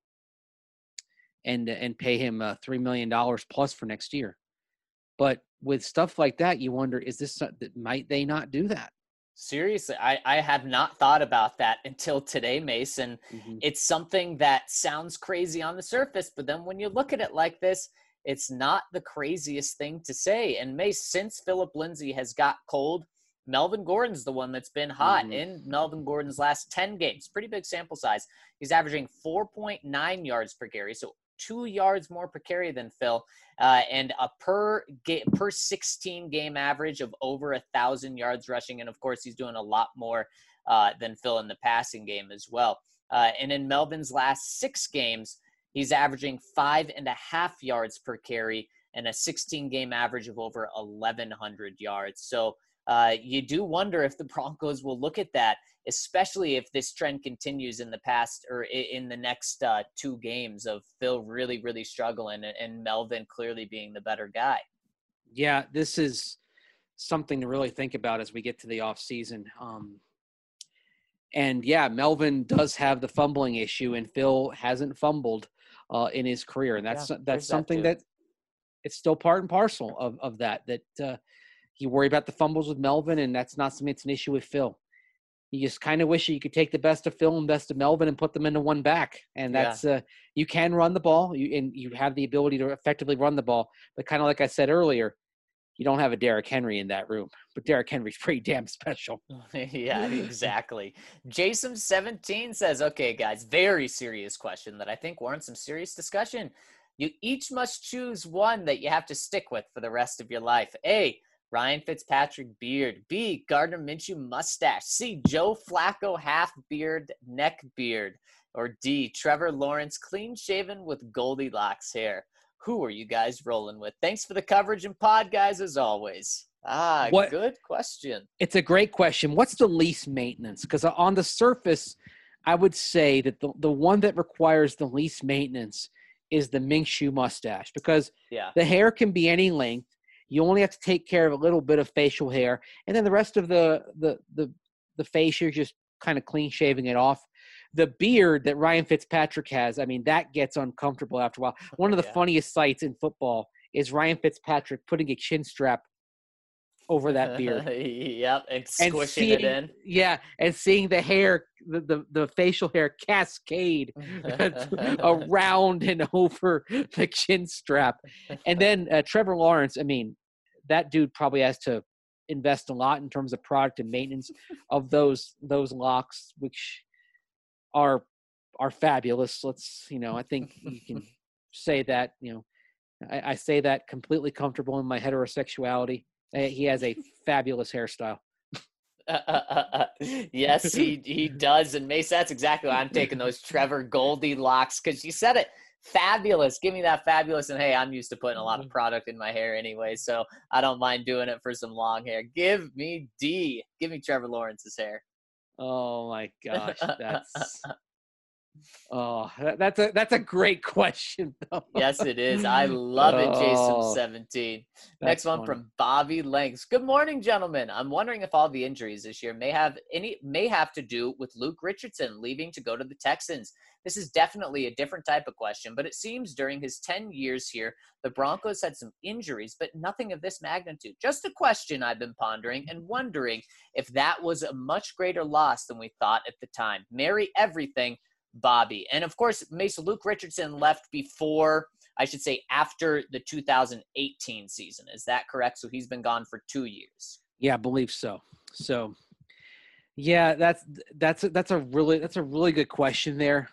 and pay him $3 million plus for next year. But with stuff like that, you wonder, might they not do that? Seriously, I have not thought about that until today, Mason. It's something that sounds crazy on the surface, but then when you look at it like this, it's not the craziest thing to say. And Mace, since Phillip Lindsay has got cold, Melvin Gordon's the one that's been hot in Melvin Gordon's last 10 games. Pretty big sample size. He's averaging 4.9 yards per carry, so 2 yards more per carry than Phil, and a per 16 game average of over 1,000 yards rushing. And of course, he's doing a lot more than Phil in the passing game as well. And in Melvin's last 6 games, he's averaging 5.5 yards per carry and a 16 game average of over 1,100 yards. So you do wonder if the Broncos will look at that, especially if this trend continues in the next 2 games of Phil really, really struggling and Melvin clearly being the better guy. Yeah, this is something to really think about as we get to the off season. And yeah, Melvin does have the fumbling issue, and Phil hasn't fumbled in his career. And that's something that it's still part and parcel of that you worry about the fumbles with Melvin, and that's not something that's an issue with Phil. You just kind of wish you could take the best of Phil and best of Melvin and put them into one back. And that's you can run the ball, and you have the ability to effectively run the ball. But kind of like I said earlier, you don't have a Derrick Henry in that room. But Derrick Henry's pretty damn special. Yeah, exactly. Jason17 says, okay, guys, very serious question that I think warrants some serious discussion. You each must choose one that you have to stick with for the rest of your life. A, Ryan Fitzpatrick beard. B, Gardner Minshew mustache. C, Joe Flacco half beard, neck beard. Or D, Trevor Lawrence clean shaven with Goldilocks hair. Who are you guys rolling with? Thanks for the coverage and pod, guys, as always. Good question. It's a great question. What's the least maintenance? Because on the surface, I would say that the one that requires the least maintenance is the Minshew mustache, because the hair can be any length. You only have to take care of a little bit of facial hair, and then the rest of the face, you're just kind of clean shaving it off. The beard that Ryan Fitzpatrick has, I mean, that gets uncomfortable after a while. One of the funniest sights in football is Ryan Fitzpatrick putting a chin strap over that beard. Yep, and squishing it in. Yeah, and seeing the hair, the facial hair cascade around and over the chin strap. And then Trevor Lawrence, I mean, that dude probably has to invest a lot in terms of product and maintenance of those locks, which are fabulous. I think you can say that, I say that completely comfortable in my heterosexuality. He has a fabulous hairstyle. Yes, he does. And Mace, that's exactly why I'm taking those Trevor Goldilocks, because you said it. Fabulous. Give me that fabulous. And hey, I'm used to putting a lot of product in my hair anyway, so I don't mind doing it for some long hair. Give me D. Give me Trevor Lawrence's hair. Oh my gosh, that's a great question though. Yes, it is. I love it, Jason 17. Next That's one funny. from Bobby Langs. Good morning, gentlemen. I'm wondering if all the injuries this year may have to do with Luke Richardson leaving to go to the Texans. This is definitely a different type of question, but it seems during his 10 years here, the Broncos had some injuries, but nothing of this magnitude. Just a question I've been pondering and wondering if that was a much greater loss than we thought at the time. Marry everything, Bobby. And of course, Mason Luke Richardson left after the 2018 season. Is that correct? So he's been gone for 2 years. Yeah, I believe so. So, yeah, that's a really good question there.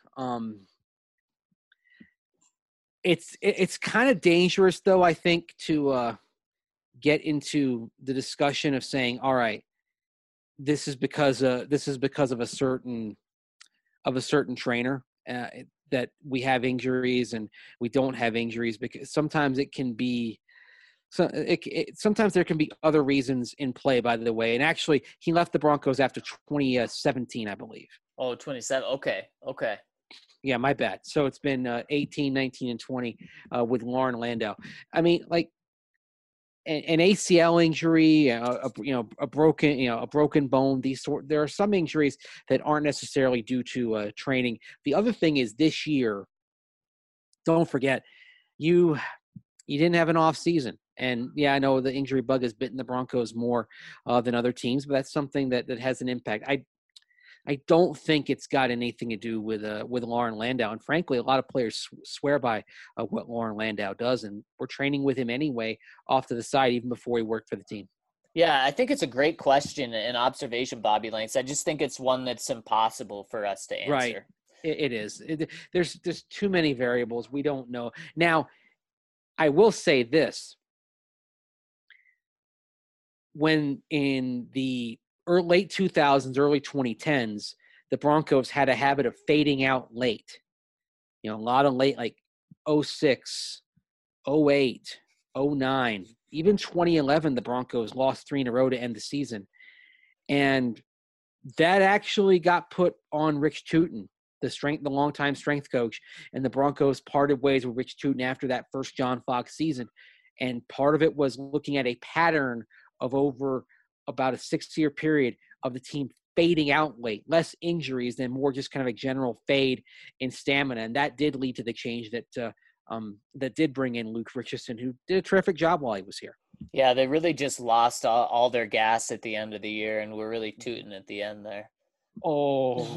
It's kind of dangerous though, I think, to get into the discussion of saying, all right, this is because of a certain trainer that we have injuries and we don't have injuries, because sometimes it can be sometimes there can be other reasons in play, by the way. And actually, he left the Broncos after 2017, I believe. Oh, 27. Okay. Yeah, my bad. So it's been 18, 19, and 20 with Lauren Landau. I mean, like an ACL injury, a broken bone. There are some injuries that aren't necessarily due to training. The other thing is this year, don't forget, you didn't have an off season. And yeah, I know the injury bug has bitten the Broncos more than other teams, but that's something that has an impact. I don't think it's got anything to do with Lauren Landau. And frankly, a lot of players swear by what Lauren Landau does, and we're training with him anyway off to the side, even before he worked for the team. Yeah, I think it's a great question and observation, Bobby Lanks. I just think it's one that's impossible for us to answer. Right. It is. There's too many variables. We don't know. Now, I will say this. When in the late 2000s, early 2010s, the Broncos had a habit of fading out late. A lot of late, like 06, 08, 09, even 2011, the Broncos lost 3 in a row to end the season. And that actually got put on Rich Tootin, the longtime strength coach, and the Broncos parted ways with Rich Tootin after that first John Fox season. And part of it was looking at a pattern of over about a 6-year period of the team fading out late, less injuries than more just kind of a general fade in stamina. And that did lead to the change that did bring in Luke Richardson, who did a terrific job while he was here. Yeah, they really just lost all their gas at the end of the year, and we're really tooting at the end there. Oh.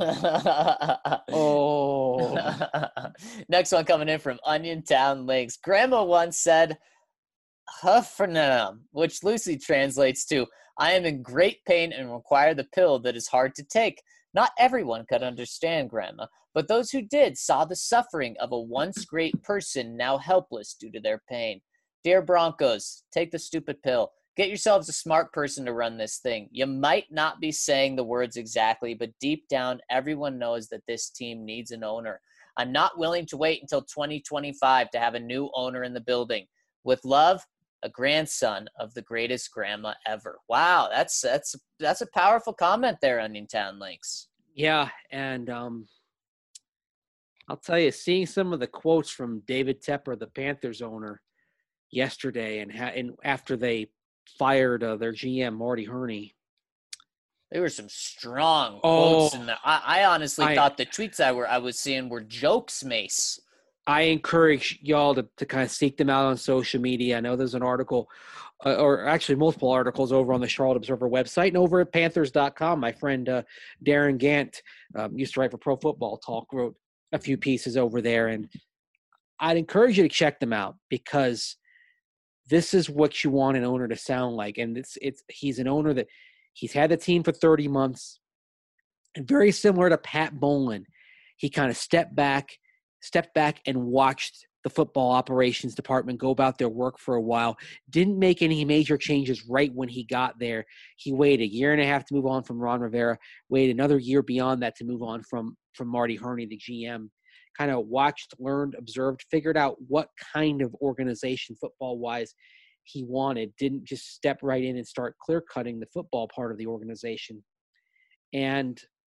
Next one coming in from Onion Town Links. Grandma once said, Huffernam, which loosely translates to, I am in great pain and require the pill that is hard to take. Not everyone could understand, Grandma, but those who did saw the suffering of a once great person now helpless due to their pain. Dear Broncos, take the stupid pill. Get yourselves a smart person to run this thing. You might not be saying the words exactly, but deep down, everyone knows that this team needs an owner. I'm not willing to wait until 2025 to have a new owner in the building. With love, a grandson of the greatest grandma ever. Wow, that's a powerful comment there, Onion Town Links. Yeah, and I'll tell you, seeing some of the quotes from David Tepper, the Panthers owner, yesterday, and after they fired their GM Marty Herney, there were some strong quotes in there. I honestly thought the tweets I was seeing were jokes, Mace. I encourage y'all to kind of seek them out on social media. I know there's an article, or actually multiple articles over on the Charlotte Observer website and over at Panthers.com. My friend Darren Gant used to write for Pro Football Talk, wrote a few pieces over there. And I'd encourage you to check them out, because this is what you want an owner to sound like. And he's an owner that he's had the team for 30 months. And very similar to Pat Bowlen, he kind of stepped back and watched the football operations department go about their work for a while. Didn't make any major changes right when he got there. He waited a year and a half to move on from Ron Rivera, waited another year beyond that to move on from Marty Herney, the GM. Kind of watched, learned, observed, figured out what kind of organization football-wise he wanted. Didn't just step right in and start clear-cutting the football part of the organization. And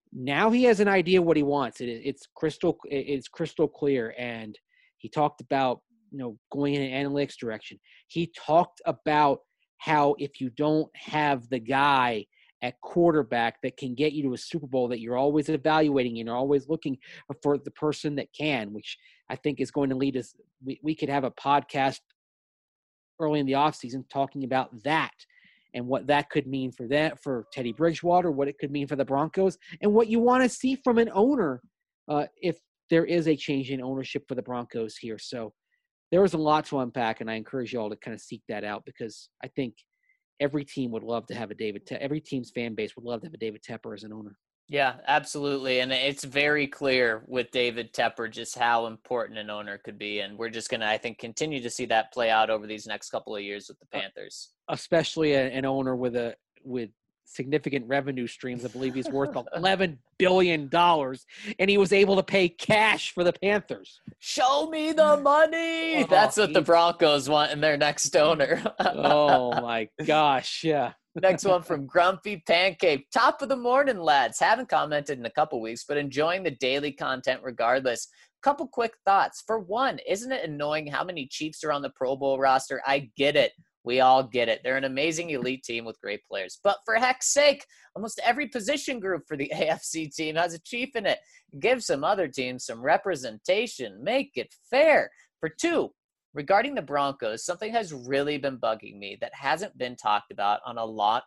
Now he has an idea what he wants. It's crystal clear. And he talked about, going in an analytics direction. He talked about how if you don't have the guy at quarterback that can get you to a Super Bowl, that you're always evaluating and you're always looking for the person that can, which I think is going to lead us. We could have a podcast early in the offseason talking about that and what that could mean for Teddy Bridgewater, what it could mean for the Broncos, and what you want to see from an owner if there is a change in ownership for the Broncos here. So there was a lot to unpack, and I encourage you all to kind of seek that out, because I think every team would love to have every team's fan base would love to have a David Tepper as an owner. Yeah, absolutely. And it's very clear with David Tepper just how important an owner could be. And we're just going to, I think, continue to see that play out over these next couple of years with the Panthers. Especially an owner with significant revenue streams. I believe he's worth $11 billion, and he was able to pay cash for the Panthers. Show me the money. That's what the Broncos want in their next owner. Oh, my gosh. Yeah. Next one from Grumpy Pancake. Top of the morning, lads. Haven't commented in a couple weeks, but enjoying the daily content regardless. Couple quick thoughts. For one, isn't it annoying how many Chiefs are on the Pro Bowl roster? I get it. We all get it. They're an amazing elite team with great players. But for heck's sake, almost every position group for the AFC team has a Chief in it. Give some other teams some representation. Make it fair. For two, regarding the Broncos, something has really been bugging me that hasn't been talked about on a lot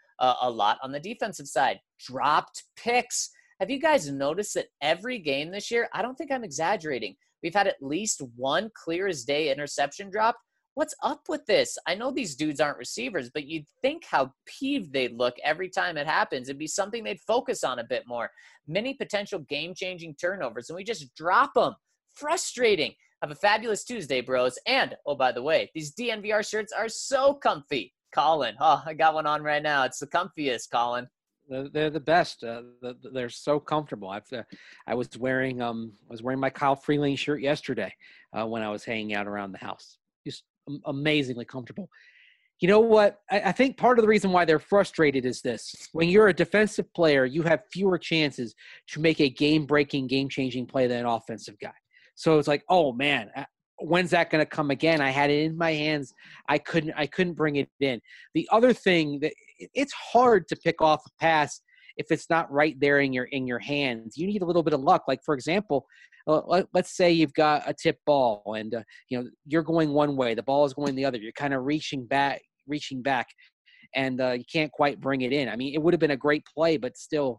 on the defensive side. Dropped picks. Have you guys noticed that every game this year, I don't think I'm exaggerating, we've had at least one clear as day interception dropped? What's up with this? I know these dudes aren't receivers, but you'd think how peeved they'd look every time it happens. It'd be something they'd focus on a bit more. Many potential game-changing turnovers, and we just drop them. Frustrating. Have a fabulous Tuesday, bros. And, oh, by the way, these DNVR shirts are so comfy. Colin. Oh, I got one on right now. It's the comfiest, Colin. They're the best. They're so comfortable. I was wearing my Kyle Freeling shirt yesterday when I was hanging out around the house. Just amazingly comfortable. You know what? I think part of the reason why they're frustrated is this. When you're a defensive player, you have fewer chances to make a game-breaking, game-changing play than an offensive guy. So it's like, oh man, when's that going to come again? I had it in my hands. I couldn't bring it in. The other thing that it's hard to pick off a pass if it's not right there in your hands. You need a little bit of luck. Like for example, let's say you've got a tip ball and you're going one way, the ball is going the other. You're kind of reaching back, and you can't quite bring it in. I mean, it would have been a great play, but still,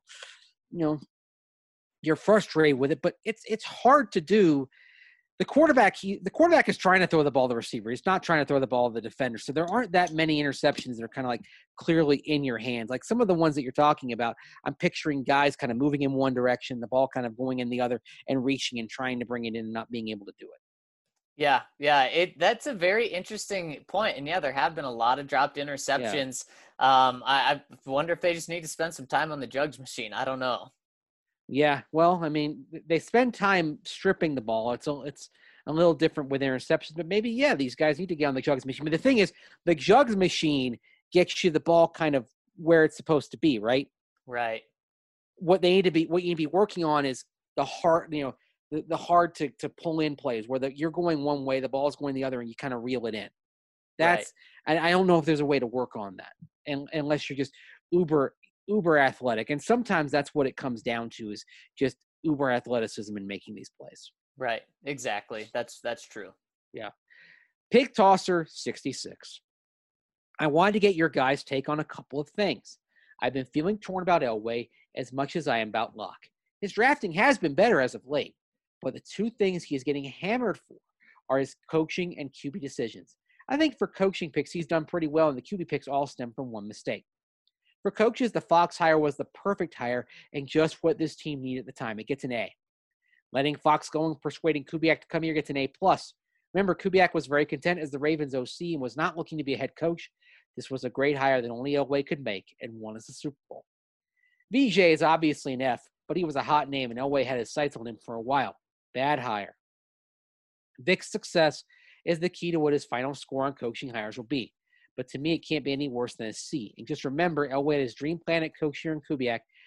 you're frustrated with it. But it's hard to do. The quarterback is trying to throw the ball to the receiver. He's not trying to throw the ball to the defender. So there aren't that many interceptions that are kind of like clearly in your hands. Like some of the ones that you're talking about, I'm picturing guys kind of moving in one direction, the ball kind of going in the other and reaching and trying to bring it in and not being able to do it. Yeah. That's a very interesting point. And yeah, there have been a lot of dropped interceptions. Yeah. I wonder if they just need to spend some time on the jugs machine. I don't know. Yeah, well, I mean, they spend time stripping the ball. It's a little different with interceptions, but maybe, yeah, these guys need to get on the jugs machine. But the thing is, the jugs machine gets you the ball kind of where it's supposed to be, right? Right. What you need to be working on is the hard, the hard to pull in plays where you're going one way, the ball's going the other, and you kind of reel it in. That's, right. I don't know if there's a way to work on that, and unless you're just uber athletic. And sometimes that's what it comes down to, is just uber athleticism in making these plays. Right. Exactly. That's true. Yeah. Pig Tosser 66. I wanted to get your guys' take on a couple of things. I've been feeling torn about Elway as much as I am about Locke. His drafting has been better as of late, but the two things he is getting hammered for are his coaching and QB decisions. I think for coaching picks, he's done pretty well, and the QB picks all stem from one mistake. For coaches, the Fox hire was the perfect hire and just what this team needed at the time. It gets an A. Letting Fox go and persuading Kubiak to come here gets an A+. Remember, Kubiak was very content as the Ravens OC and was not looking to be a head coach. This was a great hire that only Elway could make, and won us the Super Bowl. VJ is obviously an F, but he was a hot name, and Elway had his sights on him for a while. Bad hire. Vic's success is the key to what his final score on coaching hires will be. But to me, it can't be any worse than a C. And just remember, Elway had his dream plan at coach here in Kubiak,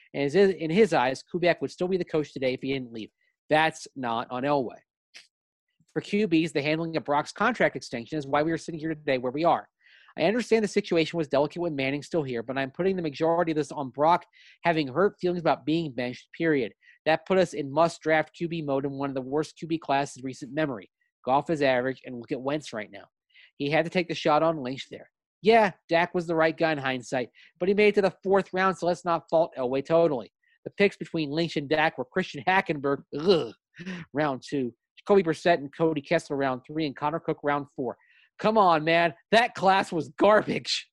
And in his eyes, Kubiak would still be the coach today if he didn't leave. That's not on Elway. For QBs, the handling of Brock's contract extension is why we are sitting here today where we are. I understand the situation was delicate with Manning still here, but I'm putting the majority of this on Brock having hurt feelings about being benched, period. That put us in must-draft QB mode in one of the worst QB classes in recent memory. Goff is average, and look at Wentz right now. He had to take the shot on Lynch there. Yeah, Dak was the right guy in hindsight, but he made it to the 4th round, so let's not fault Elway totally. The picks between Lynch and Dak were Christian Hackenberg, round 2, Jacoby Brissett and Cody Kessler, round 3, and Connor Cook, round 4. Come on, man. That class was garbage.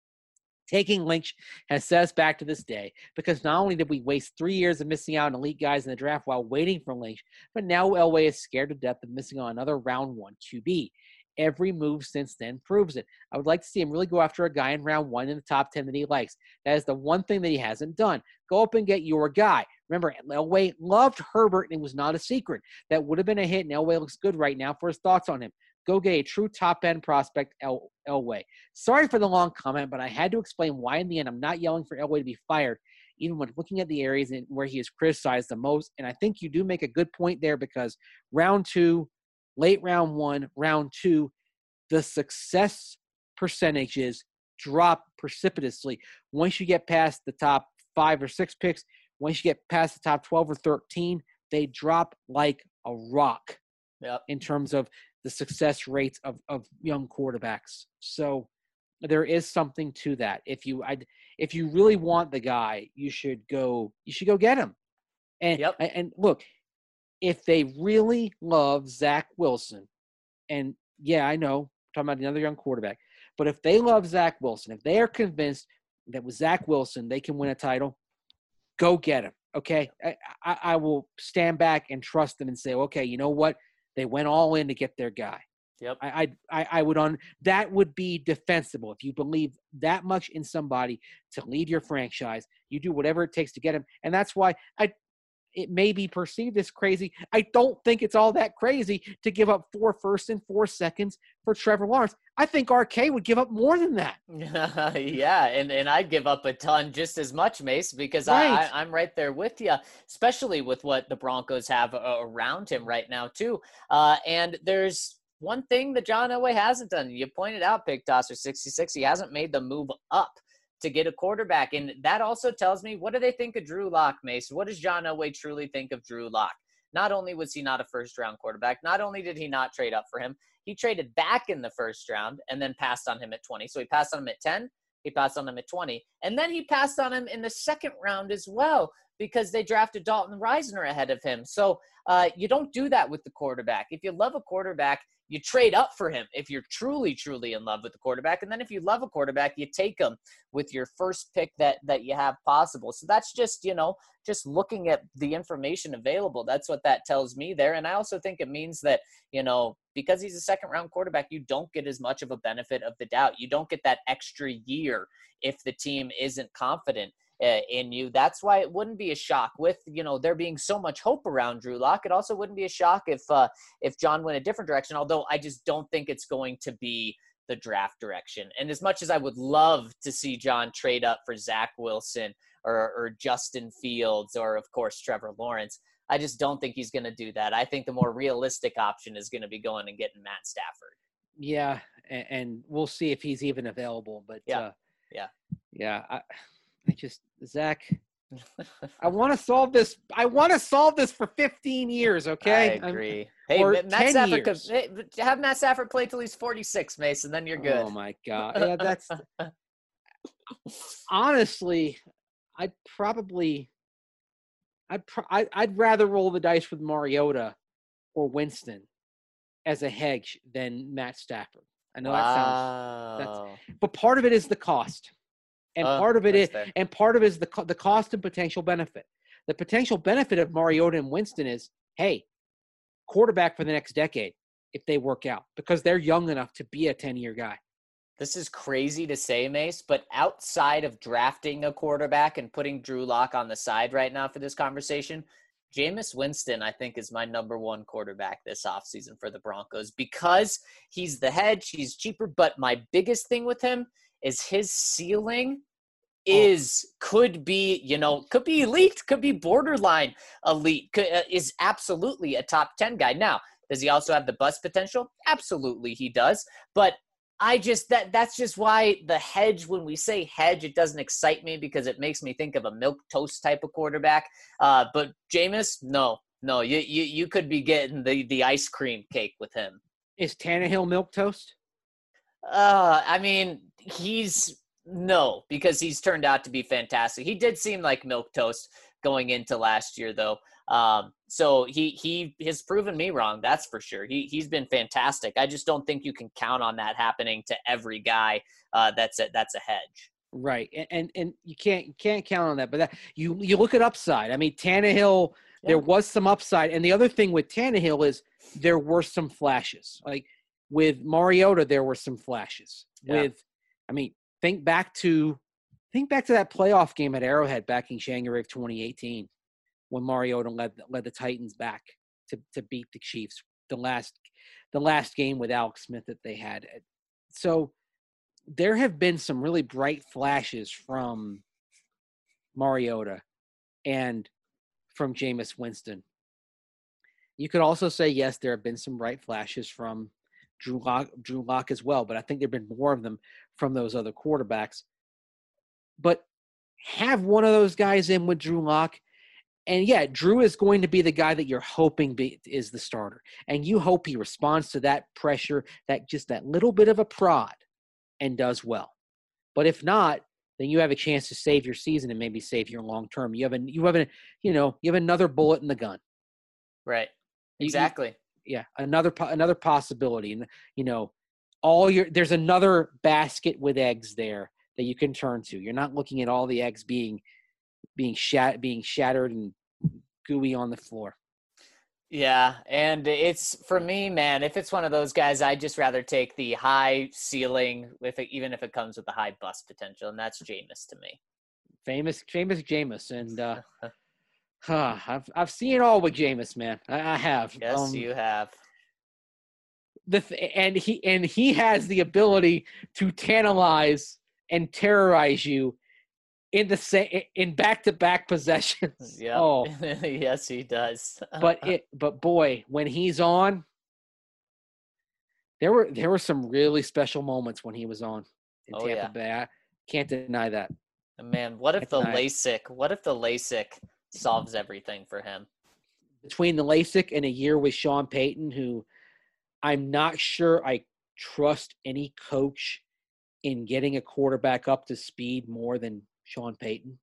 Taking Lynch has set us back to this day because not only did we waste 3 years of missing out on elite guys in the draft while waiting for Lynch, but now Elway is scared to death of missing on another round 1 QB. Every move since then proves it. I would like to see him really go after a guy in round 1 in the top 10 that he likes. That is the one thing that he hasn't done. Go up and get your guy. Remember, Elway loved Herbert, and it was not a secret. That would have been a hit, and Elway looks good right now for his thoughts on him. Go get a true top-end prospect, Elway. Sorry for the long comment, but I had to explain why in the end I'm not yelling for Elway to be fired, even when looking at the areas where he is criticized the most. And I think you do make a good point there because round 2, late round 1, round 2, the success percentages drop precipitously. Once you get past the top 5 or 6 picks, once you get past the top 12 or 13, they drop like a rock in terms of the success rates of young quarterbacks. So there is something to that. If you really want the guy, you should go get him. And look, if they really love Zach Wilson, and yeah, I know, I'm talking about another young quarterback, but if they love Zach Wilson, if they are convinced that with Zach Wilson they can win a title, go get him. Okay, I will stand back and trust them and say, okay, you know what? They went all in to get their guy. Yep. I would that would be defensible. If you believe that much in somebody to lead your franchise, you do whatever it takes to get him. And that's why it may be perceived as crazy. I don't think it's all that crazy to give up 4 firsts and 4 seconds for Trevor Lawrence. I think RK would give up more than that. Yeah, and I'd give up a ton just as much, Mace, because Right. I'm right there with you, especially with what the Broncos have around him right now, too. And there's one thing that John Elway hasn't done. You pointed out, Pig Tosser 66, he hasn't made the move up to get a quarterback. And that also tells me, what do they think of Drew Lock, Mace? What does John Elway truly think of Drew Lock? Not only was he not a first-round quarterback, not only did he not trade up for him, he traded back in the first round and then passed on him at 20. So he passed on him at 10, he passed on him at 20, and then he passed on him in the second round as well because they drafted Dalton Risner ahead of him. So you don't do that with the quarterback. If you love a quarterback, you trade up for him if you're truly, truly in love with the quarterback. And then if you love a quarterback, you take him with your first pick that you have possible. So that's just, just looking at the information available. That's what that tells me there. And I also think it means that, because he's a second-round quarterback, you don't get as much of a benefit of the doubt. You don't get that extra year if the team isn't confident in you. That's why it wouldn't be a shock with, there being so much hope around Drew Lock. It also wouldn't be a shock if John went a different direction, although I just don't think it's going to be the draft direction. And as much as I would love to see John trade up for Zach Wilson or Justin Fields or, of course, Trevor Lawrence, I just don't think he's going to do that. I think the more realistic option is going to be going and getting Matt Stafford. Yeah, and we'll see if he's even available. But Zach, I want to solve this. I want to solve this for 15 years. Okay, I agree. Matt Stafford have Matt Stafford play till he's 46, Mason. Then you're good. Oh my God. Yeah, that's honestly, I'd rather roll the dice with Mariota or Winston as a hedge than Matt Stafford. I know that sounds, but part of it is the cost. And part of it is the cost and potential benefit. The potential benefit of Mariota and Winston is, hey, quarterback for the next decade if they work out because they're young enough to be a 10-year guy. This is crazy to say, Mace, but outside of drafting a quarterback and putting Drew Lock on the side right now for this conversation, Jameis Winston, I think, is my number 1 quarterback this offseason for the Broncos because he's the hedge, he's cheaper, but my biggest thing with him is his ceiling could be elite, could be borderline elite, is absolutely a top 10 guy. Now, does he also have the bust potential? Absolutely he does. But that's just why the hedge, when we say hedge, it doesn't excite me because it makes me think of a milquetoast type of quarterback. But Jameis, no, you could be getting the ice cream cake with him. Is Tannehill milquetoast? I mean, no, because he's turned out to be fantastic. He did seem like milquetoast going into last year, though. So he has proven me wrong. That's for sure. He's been fantastic. I just don't think you can count on that happening to every guy. That's a hedge. Right. And you can't count on that, but you look at upside. I mean, Tannehill, there was some upside. And the other thing with Tannehill is there were some flashes. Like with Mariota, there were some flashes. Yeah. Think back to that playoff game at Arrowhead back in January of 2018 when Mariota led the Titans back to beat the Chiefs, the last game with Alex Smith that they had. So there have been some really bright flashes from Mariota and from Jameis Winston. You could also say, yes, there have been some bright flashes from Drew Lock as well, but I think there have been more of them from those other quarterbacks. But have one of those guys in with Drew Lock, and yeah, Drew is going to be the guy that you're hoping is the starter, and you hope he responds to that pressure, that little bit of a prod, and does well. But if not, then you have a chance to save your season and maybe save your long term. You have another bullet in the gun. Right. Exactly. Another possibility, and there's another basket with eggs there that you can turn to. You're not looking at all the eggs being shattered and gooey on the floor. Yeah, and it's, for me, man, if it's one of those guys, I'd just rather take the high ceiling, even if it comes with the high bust potential, and that's Jameis to me. Famous Jameis, and I've seen it all with Jameis, man. I have. Yes, you have. And he has the ability to tantalize and terrorize you in back-to-back possessions. Yeah. Oh. Yes, he does. but boy, when he's on, there were some really special moments when he was on in Tampa Bay. I can't deny that. Man, what if the LASIK solves everything for him? Between the LASIK and a year with Sean Payton, who I'm not sure I trust any coach in getting a quarterback up to speed more than Sean Payton.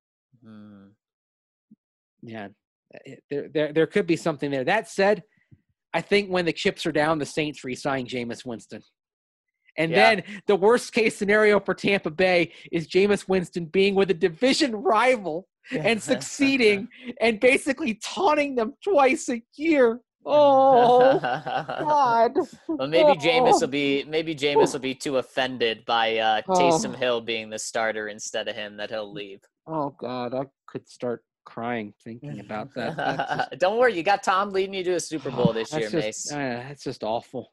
Yeah, there could be something there. That said, I think when the chips are down, the Saints re-sign Jameis Winston. And then the worst case scenario for Tampa Bay is Jameis Winston being with a division rival and succeeding and basically taunting them twice a year. Oh God! Well, maybe Jameis will be too offended by Taysom Hill being the starter instead of him that he'll leave. Oh God, I could start crying thinking about that. Don't worry, you got Tom leading you to a Super Bowl this year, Mace. That's just awful.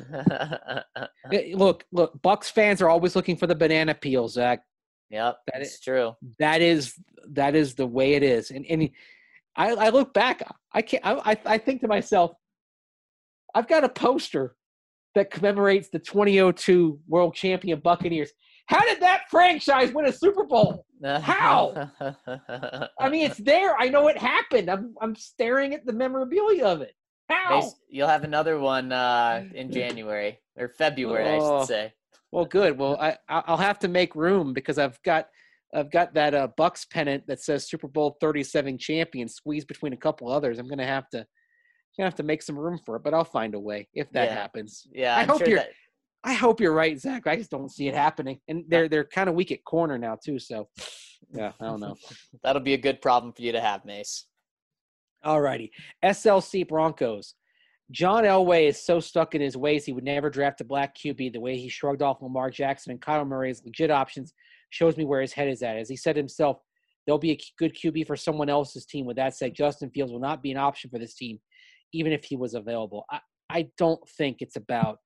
Look, Bucs fans are always looking for the banana peel, Zach. Yep, that's true. That is the way it is, and I look back. I think to myself, I've got a poster that commemorates the 2002 world champion Buccaneers. How did that franchise win a Super Bowl? How? I mean, it's there. I know it happened. I'm staring at the memorabilia of it. How? You'll have another one in January or February, I should say. Well, good. Well, I'll have to make room because I've got that Bucks pennant that says Super Bowl 37 champion squeezed between a couple others. I'm gonna have to make some room for it, but I'll find a way if that happens. Yeah, I hope you're right, Zach. I just don't see it happening, and they're kind of weak at corner now too. So, yeah, I don't know. That'll be a good problem for you to have, Mace. All righty, SLC Broncos. John Elway is so stuck in his ways he would never draft a black QB. The way he shrugged off Lamar Jackson and Kyler Murray as legit options shows me where his head is at. As he said himself, there'll be a good QB for someone else's team. With that said, Justin Fields will not be an option for this team, even if he was available. I don't think it's about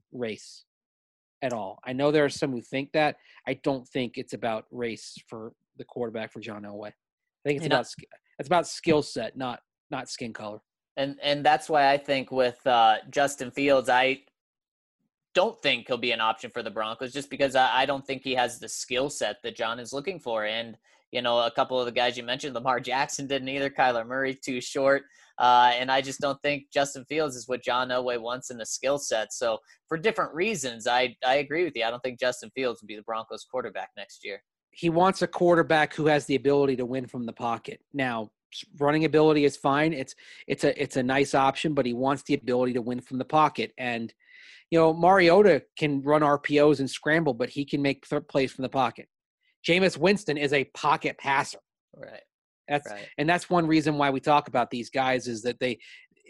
race at all. I know there are some who think that. I don't think it's about race for the quarterback for John Elway. I think You it's about skill set, not skin color. And that's why I think with Justin Fields, I don't think he'll be an option for the Broncos just because I don't think he has the skill set that John is looking for. And, a couple of the guys you mentioned, Lamar Jackson didn't either. Kyler Murray, too short. And I just don't think Justin Fields is what John Elway wants in the skill set. So for different reasons, I agree with you. I don't think Justin Fields will be the Broncos quarterback next year. He wants a quarterback who has the ability to win from the pocket. Now, running ability is fine. It's a nice option, but he wants the ability to win from the pocket. And, Mariota can run RPOs and scramble, but he can make plays from the pocket. Jameis Winston is a pocket passer. Right. And that's one reason why we talk about these guys is that they,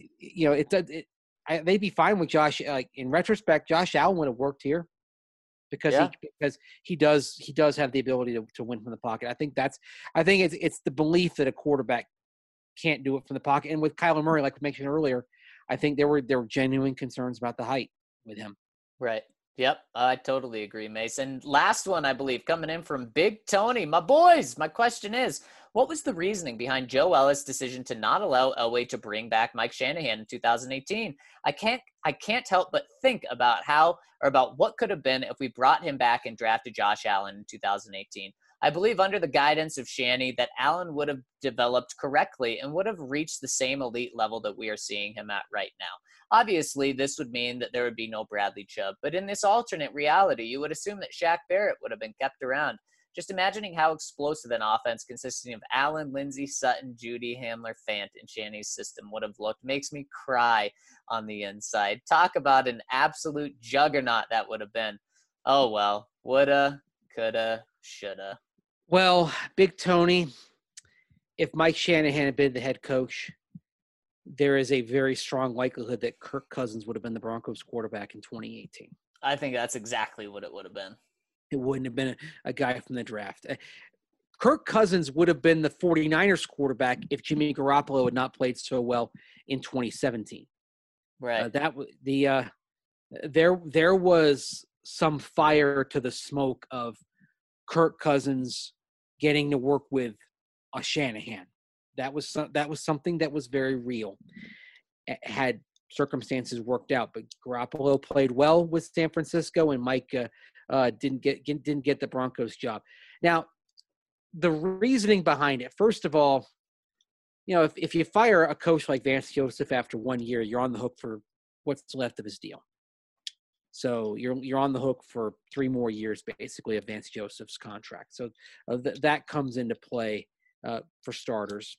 they'd be fine with Josh. In retrospect, Josh Allen would have worked here because he does have the ability to win from the pocket. I think it's the belief that a quarterback can't do it from the pocket. And with Kyler Murray, like we mentioned earlier, I think there were genuine concerns about the height with him. Right. Yep, I totally agree, Mason. Last one, I believe, coming in from Big Tony. My boys, my question is, what was the reasoning behind Joe Ellis' decision to not allow Elway to bring back Mike Shanahan in 2018? I can't help but think about what could have been if we brought him back and drafted Josh Allen in 2018. I believe under the guidance of Shanny that Allen would have developed correctly and would have reached the same elite level that we are seeing him at right now. Obviously, this would mean that there would be no Bradley Chubb, but in this alternate reality, you would assume that Shaq Barrett would have been kept around. Just imagining how explosive an offense consisting of Allen, Lindsey, Sutton, Judy, Hamler, Fant, and Shanny's system would have looked makes me cry on the inside. Talk about an absolute juggernaut that would have been. Oh, well, woulda, coulda, shoulda. Well, Big Tony, if Mike Shanahan had been the head coach, there is a very strong likelihood that Kirk Cousins would have been the Broncos quarterback in 2018. I think that's exactly what it would have been. It wouldn't have been a guy from the draft. Kirk Cousins would have been the 49ers quarterback if Jimmy Garoppolo had not played so well in 2017. Right. There was some fire to the smoke of Kirk Cousins getting to work with a Shanahan. That was something that was very real. Had circumstances worked out, but Garoppolo played well with San Francisco, and Mike didn't get the Broncos job. Now, the reasoning behind it, first of all, if you fire a coach like Vance Joseph after 1 year, you're on the hook for what's left of his deal. So you're on the hook for 3 more years, basically, of Vance Joseph's contract. So that comes into play for starters.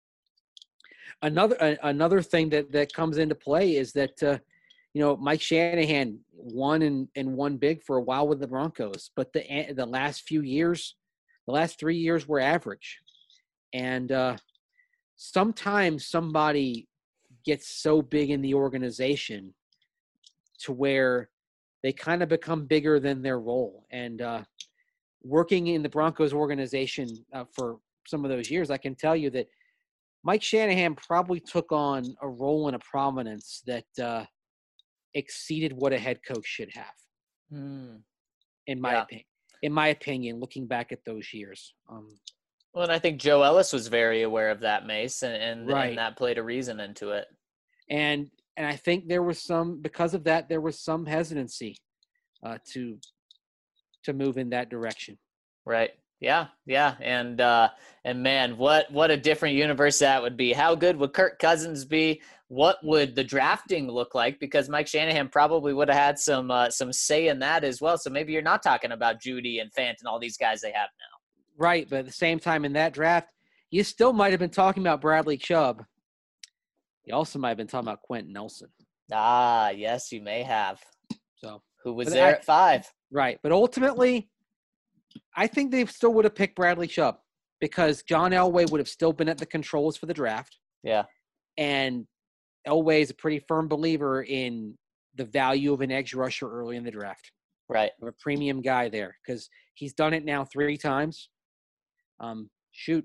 Another thing that comes into play is that Mike Shanahan won and won big for a while with the Broncos, but the last 3 years were average, and sometimes somebody gets so big in the organization to where they kind of become bigger than their role. And working in the Broncos organization for some of those years, I can tell you that Mike Shanahan probably took on a role and a prominence that exceeded what a head coach should have, in my opinion, looking back at those years. Well, and I think Joe Ellis was very aware of that, Mace, and that played a reason into it. And I think there was because of that, there was some hesitancy to move in that direction. Right. Yeah. And man, what a different universe that would be. How good would Kirk Cousins be? What would the drafting look like? Because Mike Shanahan probably would have had some say in that as well. So maybe you're not talking about Judy and Fant and all these guys they have now. Right, but at the same time in that draft, you still might have been talking about Bradley Chubb. You also might have been talking about Quentin Nelson. Ah, yes, you may have. So who was there at 5? Right, but ultimately, I think they still would have picked Bradley Chubb because John Elway would have still been at the controls for the draft. Yeah. And Elway is a pretty firm believer in the value of an edge rusher early in the draft. Right. I'm a premium guy there because he's done it now 3 times.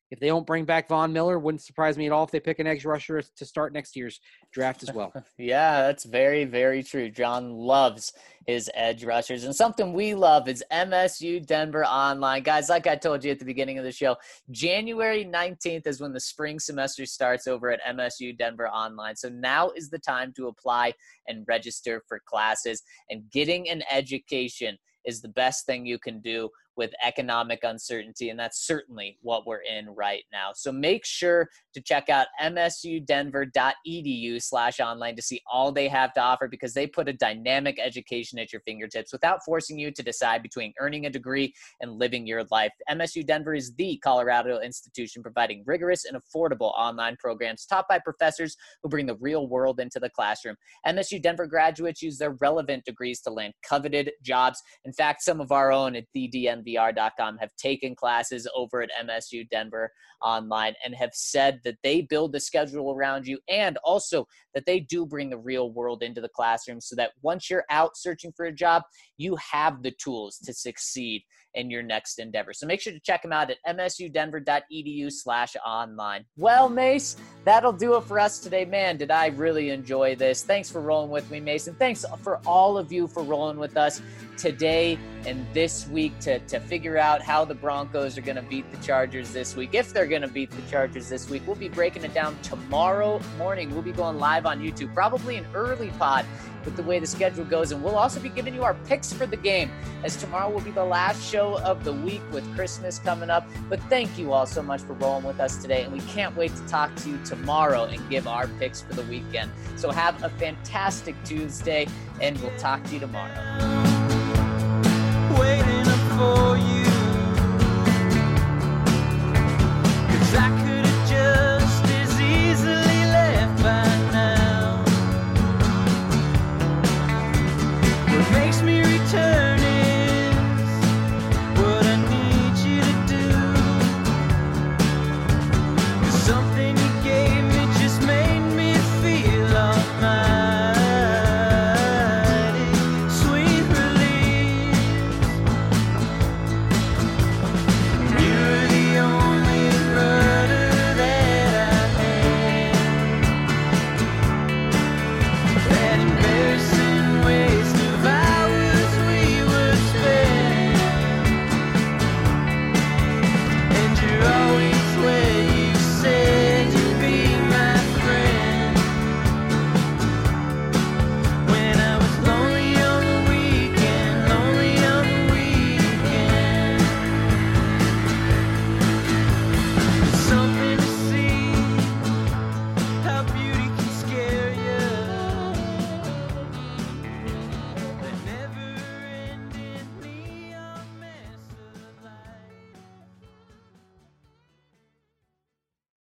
if they don't bring back Von Miller, wouldn't surprise me at all if they pick an edge rusher to start next year's draft as well. Yeah, that's very, very true. John loves his edge rushers. And something we love is MSU Denver Online. Guys, like I told you at the beginning of the show, January 19th is when the spring semester starts over at MSU Denver Online. So now is the time to apply and register for classes. And getting an education is the best thing you can do with economic uncertainty, and that's certainly what we're in right now. So make sure to check out msudenver.edu/online to see all they have to offer, because they put a dynamic education at your fingertips without forcing you to decide between earning a degree and living your life. MSU Denver is the Colorado institution providing rigorous and affordable online programs taught by professors who bring the real world into the classroom. MSU Denver graduates use their relevant degrees to land coveted jobs. In fact, some of our own at thednvr.com have taken classes over at MSU Denver Online and have said that they build the schedule around you, and also that they do bring the real world into the classroom so that once you're out searching for a job, you have the tools to succeed in your next endeavor. So make sure to check them out at msudenver.edu/online. Well, Mace, that'll do it for us today. Man, did I really enjoy this. Thanks for rolling with me, Mason. Thanks for all of you for rolling with us today and this week to figure out how the Broncos are going to beat the Chargers this week. If they're going to beat the Chargers this week, we'll be breaking it down tomorrow morning. We'll be going live on YouTube, probably an early pod with the way the schedule goes. And we'll also be giving you our picks for the game, as tomorrow will be the last show of the week with Christmas coming up. But thank you all so much for rolling with us today. And we can't wait to talk to you tomorrow and give our picks for the weekend. So have a fantastic Tuesday, and we'll talk to you tomorrow.